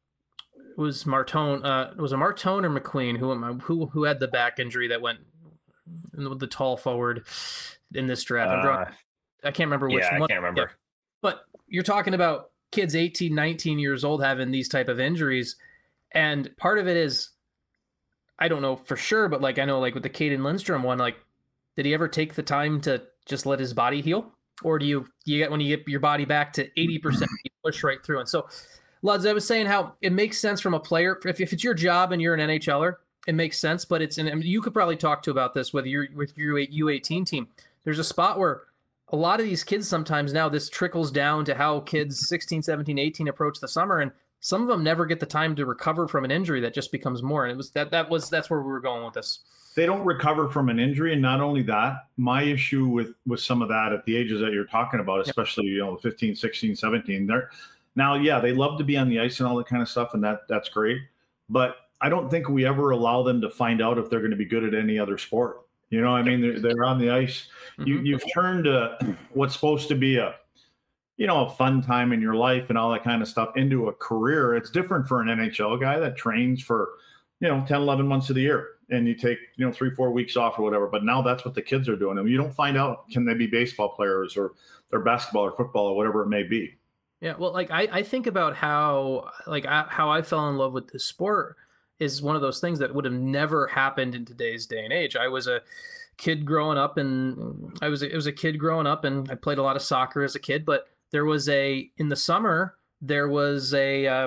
Martone. Was it Martone or McQueen who had the back injury that went with the tall forward in this draft? I can't remember which one. I can't remember. Yeah. But you're talking about kids 18, 19 years old having these type of injuries. And part of it is, I don't know for sure, but like I know, like with the Caden Lindstrom one, like did he ever take the time to just let his body heal? Or do you get, when you get your body back to 80%, you push right through? And so, Luds, I was saying how it makes sense from a player. If it's your job and you're an NHLer, it makes sense. But I mean, you could probably talk to about this with your U18 team. There's a spot where a lot of these kids sometimes now this trickles down to how kids 16, 17, 18 approach the summer, and some of them never get the time to recover from an injury that just becomes more. And it was that's where we were going with this. They don't recover from an injury. And not only that, my issue with some of that at the ages that you're talking about, especially, 15, 16, 17, they love to be on the ice and all that kind of stuff. And that's great. But I don't think we ever allow them to find out if they're going to be good at any other sport. I mean, they're on the ice. Mm-hmm. You've turned what's supposed to be a fun time in your life and all that kind of stuff into a career. It's different for an NHL guy that trains for, 10, 11 months of the year, and you take, 3-4 weeks off or whatever. But now that's what the kids are doing. I mean, you don't find out, can they be baseball players or they're basketball or football or whatever it may be. Yeah. Well, like I think about how I fell in love with this sport is one of those things that would have never happened in today's day and age. I was a kid growing up, and I played a lot of soccer as a kid, but in the summer, there was a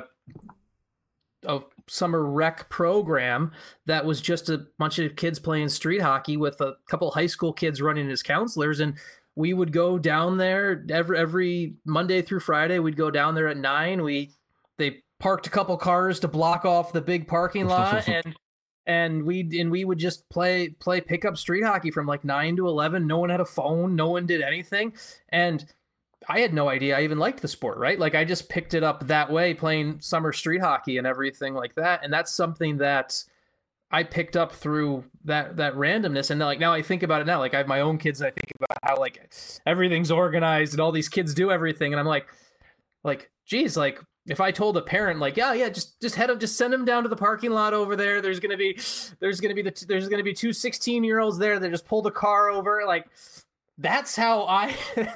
summer rec program that was just a bunch of kids playing street hockey with a couple high school kids running as counselors. And we would go down there every Monday through Friday. We'd go down there at 9. They parked a couple cars to block off the big parking lot, and we would just play pickup street hockey from like 9 to 11. No one had a phone. No one did anything. And I had no idea I even liked the sport, right? Like I just picked it up that way, playing summer street hockey and everything like that. And that's something that I picked up through that randomness. And like now I think about it now, like I have my own kids and I think about how like everything's organized and all these kids do everything. And I'm like, geez, like if I told a parent like, yeah, just send them down to the parking lot over there. There's going to be 2 16-year-olds there that just pull the car over. Like, that's how I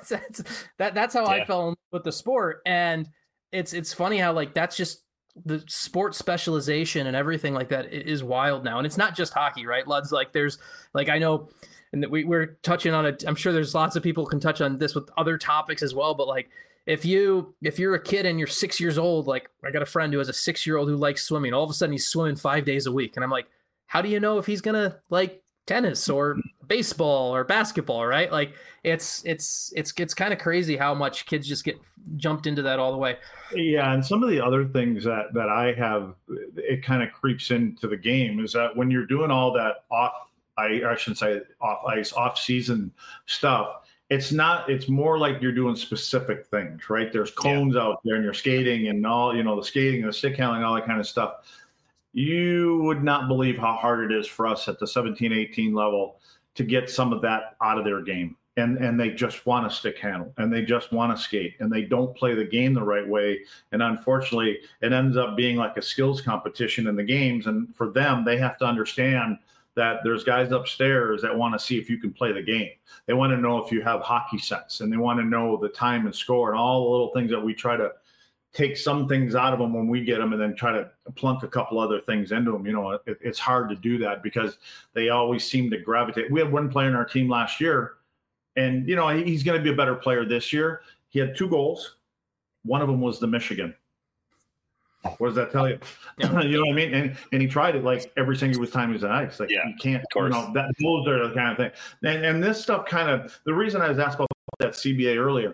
that's how I fell in love with the sport. And it's funny how like that's just the sport specialization and everything like that is wild now. And it's not just hockey, right, Luds? Like there's like I know, and we're touching on it. I'm sure there's lots of people can touch on this with other topics as well. But like if you're a kid and you're 6 years old, like I got a friend who has a 6-year-old who likes swimming. All of a sudden he's swimming 5 days a week, and I'm like, how do you know if he's gonna like tennis or baseball or basketball, right? Like it's kind of crazy how much kids just get jumped into that all the way. Yeah, and some of the other things that I have, it kind of creeps into the game is that when you're doing all that I shouldn't say off ice, off season stuff, it's more like you're doing specific things, right? There's cones out there and you're skating and all, the skating and the stick handling, all that kind of stuff. You would not believe how hard it is for us at the 17, 18 level to get some of that out of their game. And they just want to stick handle and they just want to skate and they don't play the game the right way. And unfortunately, it ends up being like a skills competition in the games. And for them, they have to understand that there's guys upstairs that want to see if you can play the game. They want to know if you have hockey sense, and they want to know the time and score and all the little things that we try to take some things out of them when we get them and then try to plunk a couple other things into them. It's hard to do that because they always seem to gravitate. We had one player in our team last year, and, he's going to be a better player this year. He had 2 goals. One of them was the Michigan. What does that tell you? Yeah. You know what I mean? And he tried it like every single time he was on ice. Like you can't, those are the kind of thing. And this stuff the reason I was asked about that CBA earlier,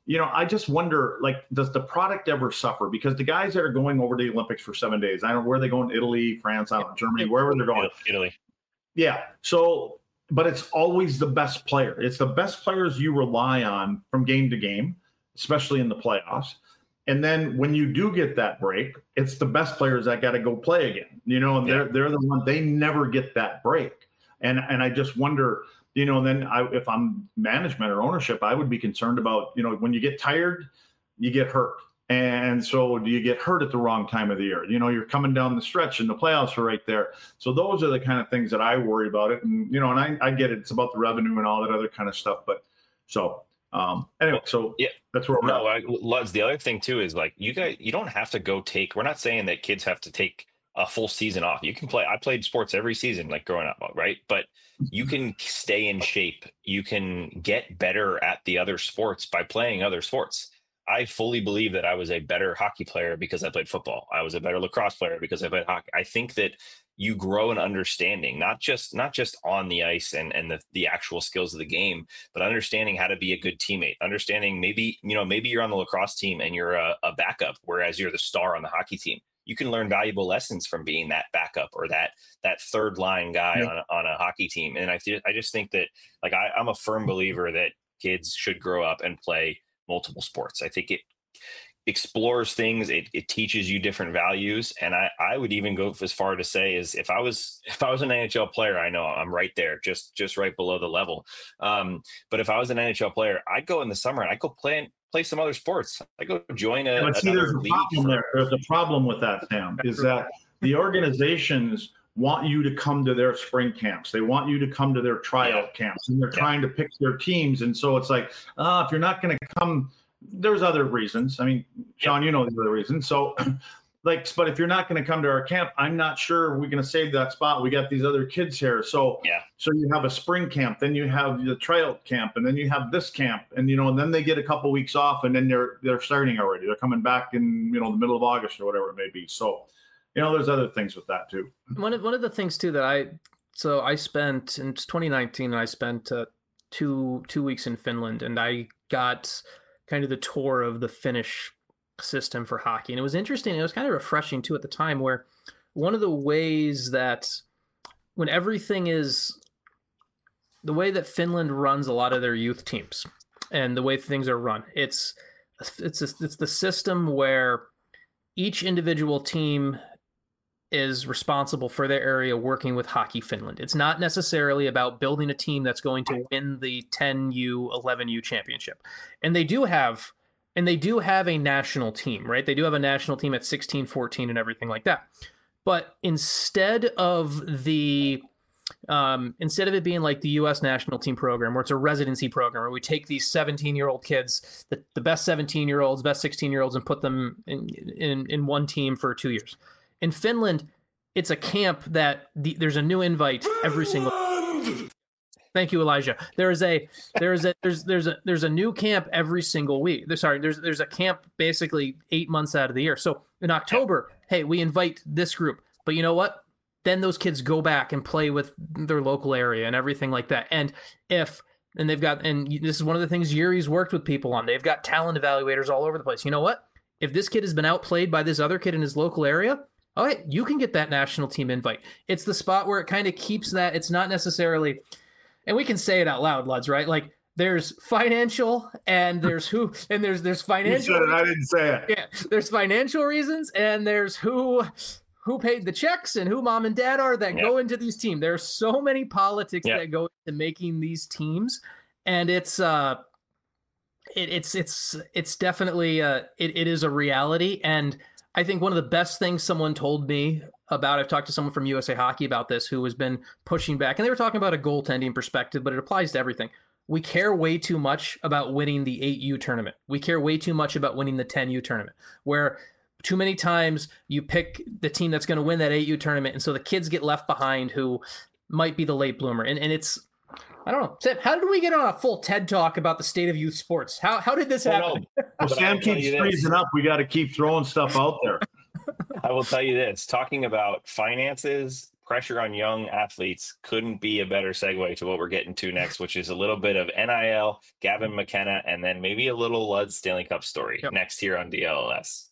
I just wonder, like, does the product ever suffer? Because the guys that are going over to the Olympics for 7 days, I don't know where they're going, Italy, France, I don't know, Germany, wherever they're going. Italy. Yeah. So, but it's always the best player. It's the best players you rely on from game to game, especially in the playoffs. And then when you do get that break, it's the best players that got to go play again, and they're the one, they never get that break. And I just wonder, then if I'm management or ownership, I would be concerned about, when you get tired, you get hurt. And so do you get hurt at the wrong time of the year? You're coming down the stretch and the playoffs are right there. So those are the kind of things that I worry about it. And, and I get it. It's about the revenue and all that other kind of stuff. But so anyway, so that's where we're at. Luds, the other thing too is like you don't have to go we're not saying that kids have to take a full season off. You can play. I played sports every season, like growing up, right? But you can stay in shape. You can get better at the other sports by playing other sports. I fully believe that I was a better hockey player because I played football. I was a better lacrosse player because I played hockey. I think that you grow in understanding, not just on the ice and the actual skills of the game, but understanding how to be a good teammate, understanding maybe you're on the lacrosse team and you're a backup, whereas you're the star on the hockey team. You can learn valuable lessons from being that backup or that third line guy on a hockey team. And I just think that, like, I'm a firm believer that kids should grow up and play multiple sports. I think it explores things. It teaches you different values. And I would even go as far to say is if I was an NHL player, I know I'm right there, just right below the level. But if I was an NHL player, I'd go in the summer and I'd go play some other sports. I go join another league. There's a problem with that, Sam, is that the organizations want you to come to their spring camps. They want you to come to their tryout camps, and they're trying to pick their teams. And so it's like, if you're not going to come, there's other reasons. I mean, Sean, you know the other reasons. So like, but if you're not going to come to our camp, I'm not sure we're going to save that spot. We got these other kids here. So, so you have a spring camp, then you have the tryout camp, and then you have this camp, and, and then they get a couple weeks off, and then they're starting already. They're coming back in, the middle of August or whatever it may be. So, there's other things with that too. One of the things too that I spent in 2019, I spent 2 weeks in Finland, and I got kind of the tour of the Finnish system for hockey. And it was interesting. It was kind of refreshing too at the time, where one of the ways that when everything is the way that Finland runs a lot of their youth teams and the way things are run, it's the system where each individual team is responsible for their area working with Hockey Finland. It's not necessarily about building a team that's going to win the 10U, 11U championship. And they do have a national team, right? They do have a national team at 16, 14 and everything like that. But instead of it being like the U.S. national team program, where it's a residency program, where we take these 17-year-old kids, the best 17-year-olds, best 16-year-olds, and put them in one team for 2 years. In Finland, it's a camp that there's a new invite every single. Thank you, Elijah. There's a new camp every single week. There's a camp basically 8 months out of the year. So in October, hey, we invite this group, but you know what? Then those kids go back and play with their local area and everything like that. And this is one of the things Yuri's worked with people on. They've got talent evaluators all over the place. You know what? If this kid has been outplayed by this other kid in his local area, all right, you can get that national team invite. It's the spot where it kind of keeps that. It's not necessarily, and we can say it out loud, Luds, right? Like there's financial and there's there's financial. You said it, I didn't say it. Yeah, there's financial reasons and there's who paid the checks and who mom and dad are that go into these teams. There are so many politics that go into making these teams, and it's definitely it is a reality. And I think one of the best things someone told me about, I've talked to someone from USA Hockey about this who has been pushing back, and they were talking about a goaltending perspective, but it applies to everything. We care way too much about winning the 8U tournament. We care way too much about winning the 10U tournament, where too many times you pick the team that's going to win that 8U tournament, and so the kids get left behind who might be the late bloomer. And it's, I don't know. Sam, how did we get on a full TED Talk about the state of youth sports? How did this happen? Well, Sam keeps freezing up. We got to keep throwing stuff out there. I will tell you this. Talking about finances, pressure on young athletes couldn't be a better segue to what we're getting to next, which is a little bit of NIL, Gavin McKenna, and then maybe a little Lud's Stanley Cup story next here on DLS.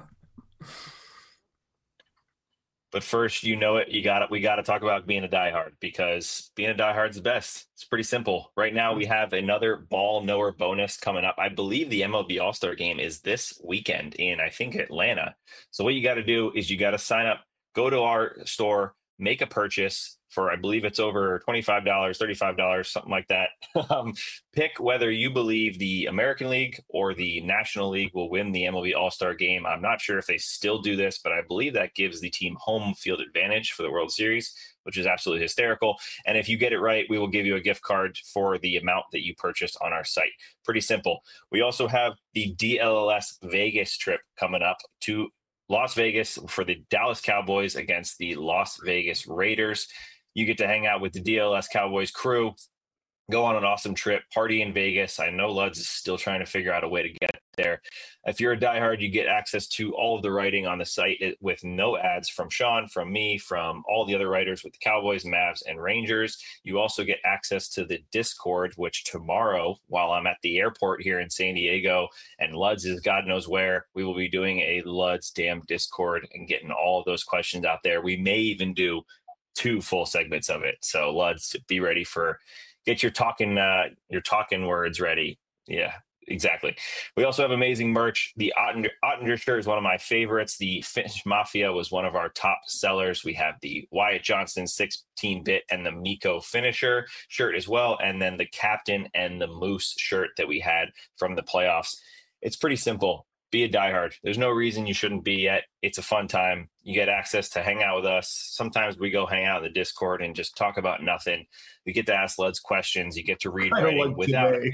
But first, we got to talk about being a diehard, because being a diehard is the best. It's pretty simple. Right now, we have another ball knower bonus coming up. I believe the MLB All-Star Game is this weekend in, I think, Atlanta. So what you got to do is you got to sign up, go to our store, make a purchase for, I believe it's over $25, $35, something like that. Pick whether you believe the American League or the National League will win the MLB All-Star Game. I'm not sure if they still do this, but I believe that gives the team home field advantage for the World Series, which is absolutely hysterical. And if you get it right, we will give you a gift card for the amount that you purchased on our site. Pretty simple. We also have the DLS Vegas trip coming up to Las Vegas for the Dallas Cowboys against the Las Vegas Raiders. You get to hang out with the DLS Cowboys crew, go on an awesome trip, party in Vegas. I know Luds is still trying to figure out a way to get there. If you're a diehard, you get access to all of the writing on the site with no ads from Sean, from me, from all the other writers with the Cowboys, Mavs, and Rangers. You also get access to the Discord, which tomorrow, while I'm at the airport here in San Diego and Luds is God knows where, we will be doing a Luds Damn Discord and getting all of those questions out there. We may even do 2 full segments of it. So Luds, be ready get your talking words ready. Yeah, exactly. We also have amazing merch. The Ottinger shirt is one of my favorites. The Finnish Mafia was one of our top sellers. We have the Wyatt Johnston 16-bit and the Mikko finisher shirt as well. And then the Captain and the Moose shirt that we had from the playoffs. It's pretty simple. Be a diehard. There's no reason you shouldn't be yet. It's a fun time. You get access to hang out with us. Sometimes we go hang out in the Discord and just talk about nothing. We get to ask Luds questions. You get to read writing without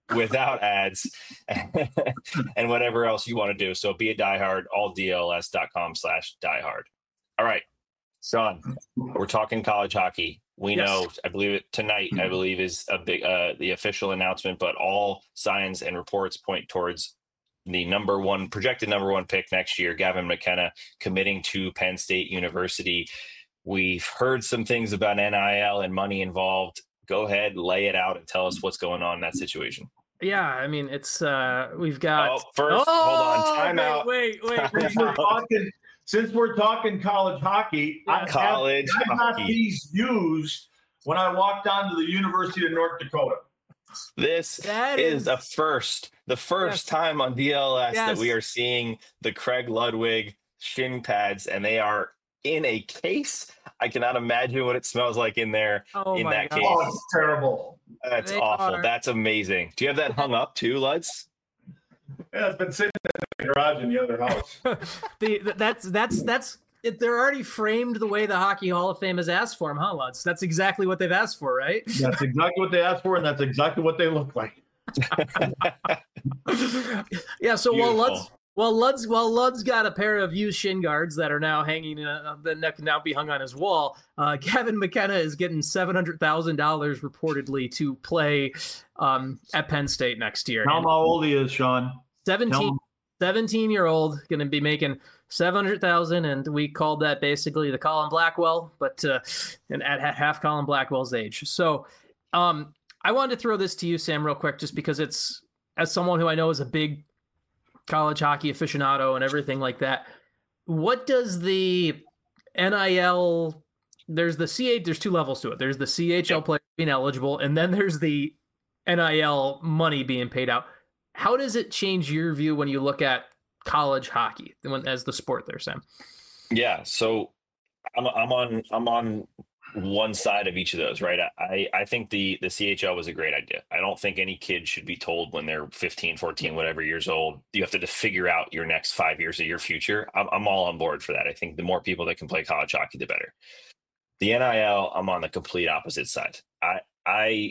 without ads and whatever else you want to do. So be a diehard, alldls.com/diehard. All right, Sean, we're talking college hockey. We know, I believe it tonight, I believe is a big, the official announcement, but all signs and reports point towards the projected number one pick next year, Gavin McKenna, committing to Penn State University. We've heard some things about NIL and money involved. Go ahead, lay it out and tell us what's going on in that situation. Yeah, I mean, it's we've got hold on, time out. Wait. Since we're talking college hockey, I got these used when I walked onto the University of North Dakota. This is the first time on DLS that we are seeing the Craig Ludwig shin pads, and they are in a case. I cannot imagine what it smells like in there case. Oh, it's terrible. That's awful. That's amazing. Do you have that hung up too, Luds? Yeah, it's been sitting in the garage in the other house. They're already framed the way the Hockey Hall of Fame has asked for them, huh, Luds? That's exactly what they've asked for, right? That's exactly what they asked for, and that's exactly what they look like. Yeah. So while Lud's got a pair of used shin guards that are now hanging, that can now be hung on his wall. Gavin McKenna is getting $700,000 reportedly to play at Penn State next year. Tell him how old he is, Sean. 17-year-old, going to be making $700,000, and we called that basically the Colin Blackwell, but and at half Colin Blackwell's age. So I wanted to throw this to you, Sam, real quick, just because it's, as someone who I know is a big college hockey aficionado and everything like that. What does the NIL? There's two levels to it. There's the CHL player being eligible, and then there's the NIL money being paid out. How does it change your view when you look at college hockey as the sport there, Sam? Yeah, so I'm on one side of each of those, right? I think the CHL was a great idea. I don't think any kid should be told when they're 15, 14, whatever years old, you have to figure out your next 5 years of your future. I'm all on board for that. I think the more people that can play college hockey, the better. The NIL, I'm on the complete opposite side. I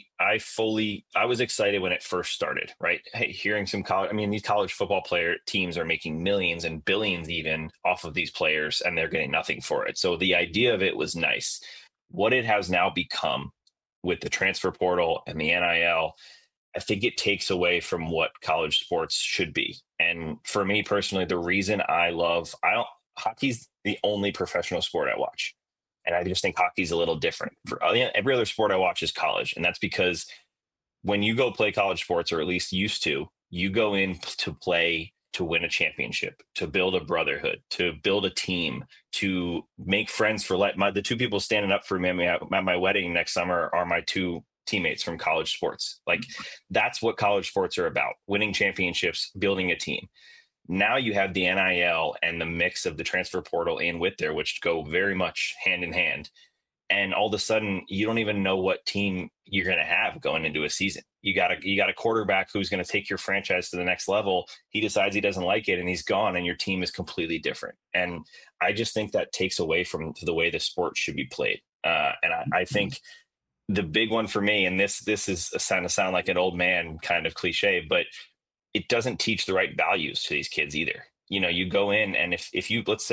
was excited when it first started, right? Hey, hearing these college football teams are making millions and billions even off of these players, and they're getting nothing for it. So the idea of it was nice. What it has now become with the transfer portal and the NIL, I think it takes away from what college sports should be. And for me personally, the reason hockey's the only professional sport I watch. And I just think hockey's a little different. Every other sport I watch is college. And that's because when you go play college sports, or at least used to, you go in to play to win a championship, to build a brotherhood, to build a team, to make friends for the two people standing up for me at my wedding next summer are my two teammates from college sports. Like, that's what college sports are about: winning championships, building a team. Now you have the NIL and the mix of the transfer portal in with there, which go very much hand in hand. And all of a sudden, you don't even know what team you're going to have going into a season. You got a quarterback who's going to take your franchise to the next level. He decides he doesn't like it and he's gone, and your team is completely different. And I just think that takes away from the way the sport should be played. And I think the big one for me, and this is going to sound like an old man kind of cliche, but it doesn't teach the right values to these kids either. You go in, and if you, let's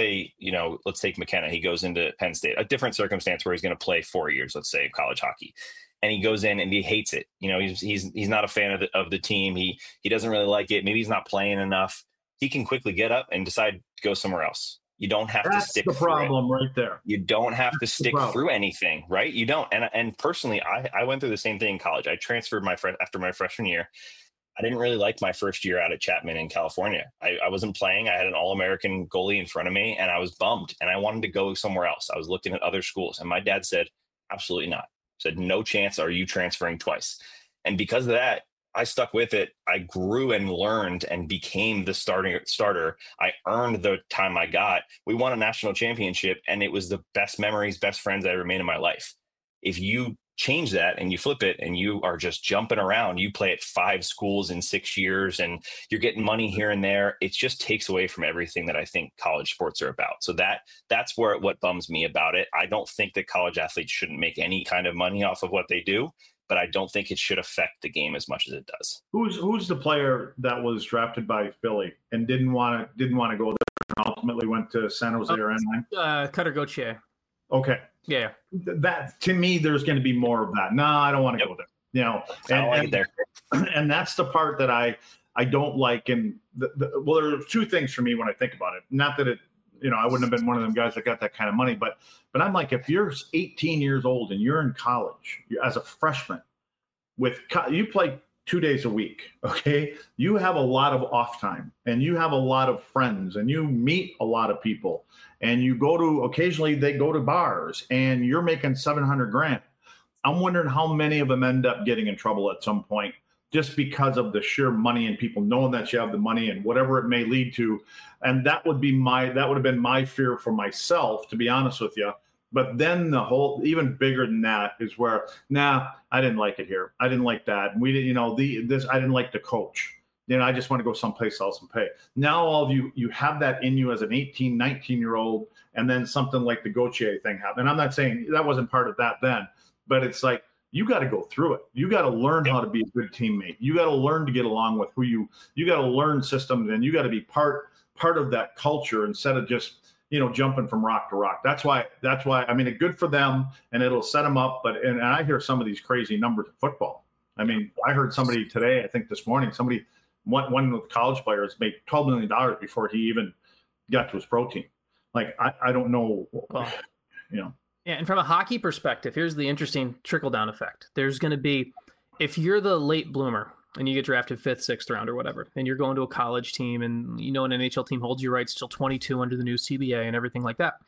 take McKenna, he goes into Penn State, a different circumstance where he's going to play 4 years, let's say, of college hockey, and he goes in and he hates it. He's not a fan of the team. He doesn't really like it. Maybe he's not playing enough. He can quickly get up and decide to go somewhere else. You don't have to stick. That's the problem right there. You don't have to stick through anything, right? You don't. And personally, I went through the same thing in college. I transferred after my freshman year. I didn't really like my first year out at Chapman in California. I wasn't playing. I had an All-American goalie in front of me, and I was bummed, and I wanted to go somewhere else. I was looking at other schools, and my dad said, absolutely not. Said, no chance are you transferring twice. And because of that, I stuck with it. I grew and learned and became the starter. I earned the time I got. We won a national championship, and it was the best memories, best friends I ever made in my life. If you change that and you flip it and you are just jumping around, you play at 5 schools in 6 years and you're getting money here and there, it just takes away from everything that I think college sports are about. So that's what bums me about it. I don't think that college athletes shouldn't make any kind of money off of what they do, but I don't think it should affect the game as much as it does. Who's the player that was drafted by Philly and didn't want to go there and ultimately went to San Jose or Anaheim? Cutter Gauthier. Okay. Yeah. That, to me, there's going to be more of that. No, I don't want to go there. You know, I don't like it there. And that's the part that I don't like. And well, there are two things for me when I think about it. Not that it, you know, I wouldn't have been one of them guys that got that kind of money, but I'm like, if you're 18 years old and you're in college as a freshman, you play 2 days a week, okay? You have a lot of off time, and you have a lot of friends, and you meet a lot of people, and you occasionally they go to bars, and you're making $700,000. I'm wondering how many of them end up getting in trouble at some point just because of the sheer money and people knowing that you have the money and whatever it may lead to. And that would have been my fear for myself, to be honest with you. But then the whole, even bigger than that, is where, I didn't like it here. I didn't like that. We didn't, I didn't like the coach. I just want to go someplace else and pay. Now all of you have that in you as an 18, 19-year-old, and then something like the Gauthier thing happened. And I'm not saying that wasn't part of that then, but it's like, you got to go through it. You got to learn how to be a good teammate. You got to learn to get along with you got to learn systems, and you got to be part of that culture instead of just, jumping from rock to rock. That's why, I mean, it's good for them and it'll set them up. And I hear some of these crazy numbers in football. I mean, I heard somebody today, I think this morning, one of the college players made $12 million before he even got to his pro team. Like, I don't know, Yeah, and from a hockey perspective, here's the interesting trickle-down effect. There's going to be, if you're the late bloomer and you get drafted 5th, 6th round or whatever, and you're going to a college team and, an NHL team holds your rights till 22 under the new CBA and everything like that.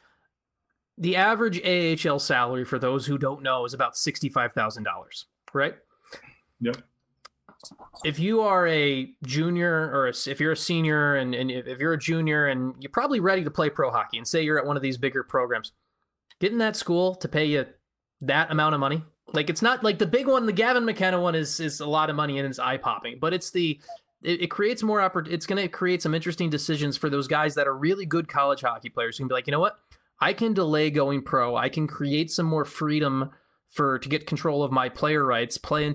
The average AHL salary, for those who don't know, is about $65,000, right? Yep. If you are a junior or if you're a senior and if you're a junior and you're probably ready to play pro hockey, and say you're at one of these bigger programs, getting that school to pay you that amount of money, like, it's not like the big one, the Gavin McKenna one is a lot of money and it's eye popping, but it creates more it's going to create some interesting decisions for those guys that are really good college hockey players who can be like, you know what, I can delay going pro. I can create some more freedom to get control of my player rights, play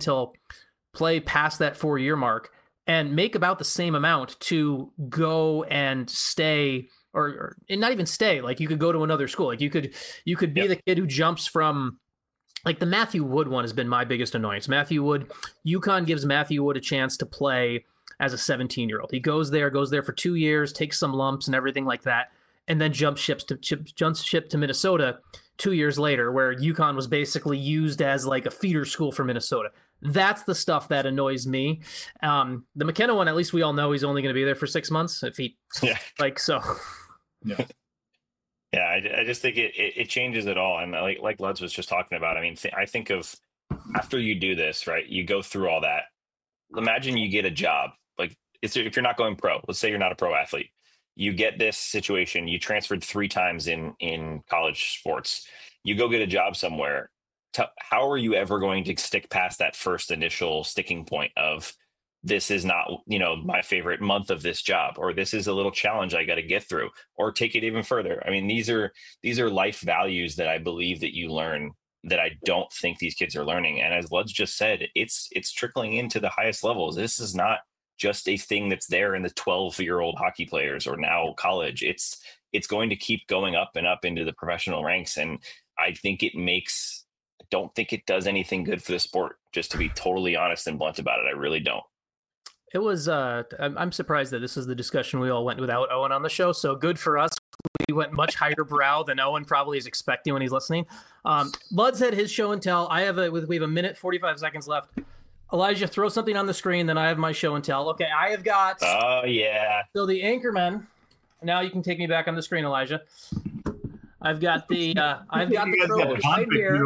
past that 4-year mark, and make about the same amount to go and stay, or not even stay. Like, you could go to another school. Like, you could be the kid who jumps from, like, the Matthew Wood one has been my biggest annoyance. Matthew Wood, UConn gives Matthew Wood a chance to play as a 17-year-old. He goes there for 2 years, takes some lumps and everything like that, and then jumps ship to Minnesota 2 years later, where UConn was basically used as like a feeder school for Minnesota. That's the stuff that annoys me. The McKenna one, at least we all know he's only going to be there for 6 months. If he, so. Yeah. Yeah, I just think it changes it all. And like Luds was just talking about, I mean, I think of, after you do this, right, you go through all that. Imagine you get a job. Like, if you're not going pro, let's say you're not a pro athlete, you get this situation, you transferred 3 times in college sports, you go get a job somewhere. How are you ever going to stick past that first initial sticking point of, this is not, my favorite month of this job, or this is a little challenge I got to get through, or take it even further? I mean, these are life values that I believe that you learn that I don't think these kids are learning. And as Luds just said, it's trickling into the highest levels. This is not just a thing that's there in the 12-year-old hockey players or now college. It's going to keep going up and up into the professional ranks. And I think I don't think it does anything good for the sport, just to be totally honest and blunt about it. I really don't. It was, I'm surprised that this is the discussion we all went without Owen on the show. So good for us. We went much higher brow than Owen probably is expecting when he's listening. Luds had his show and tell. We have a minute, 45 seconds left. Elijah, throw something on the screen, then I have my show and tell. Okay, I have got. Oh, yeah. So the Anchorman. Now you can take me back on the screen, Elijah. I've got the probe right here.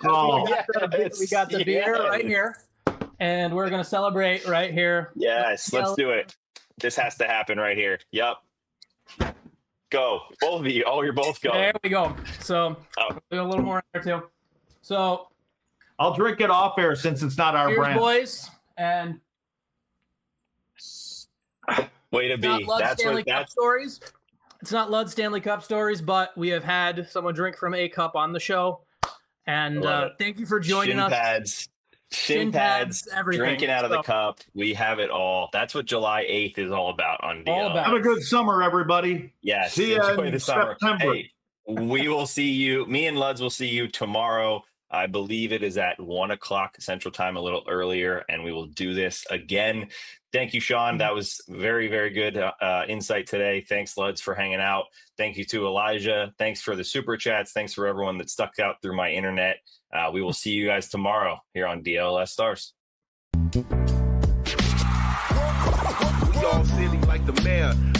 We got the beer right here. And we're going to celebrate right here. Yes, let's do it. This has to happen right here. Yep. Go. Both of you. Oh, you're both going. There we go. So a little more in there too. So I'll drink it off air since it's not our brand. Boys. And way to be. That's Cup stories. It's not Lud Stanley Cup stories, but we have had someone drink from a cup on the show. And thank you for joining us. Pads. shin pads, everything. drinking out of the cup. We have it all. That's what July 8th is all about on DL. All about. Have a good summer, everybody. Yes. See you Enjoy in the summer. September. Hey, we will see you. Me and Luds will see you tomorrow. I believe it is at 1:00 Central Time, a little earlier, and we will do this again. Thank you, Sean. That was very, very good insight today. Thanks, Luds, for hanging out. Thank you to Elijah. Thanks for the super chats. Thanks for everyone that stuck out through my internet. We will see you guys tomorrow here on DLS Stars. We all silly like the mayor.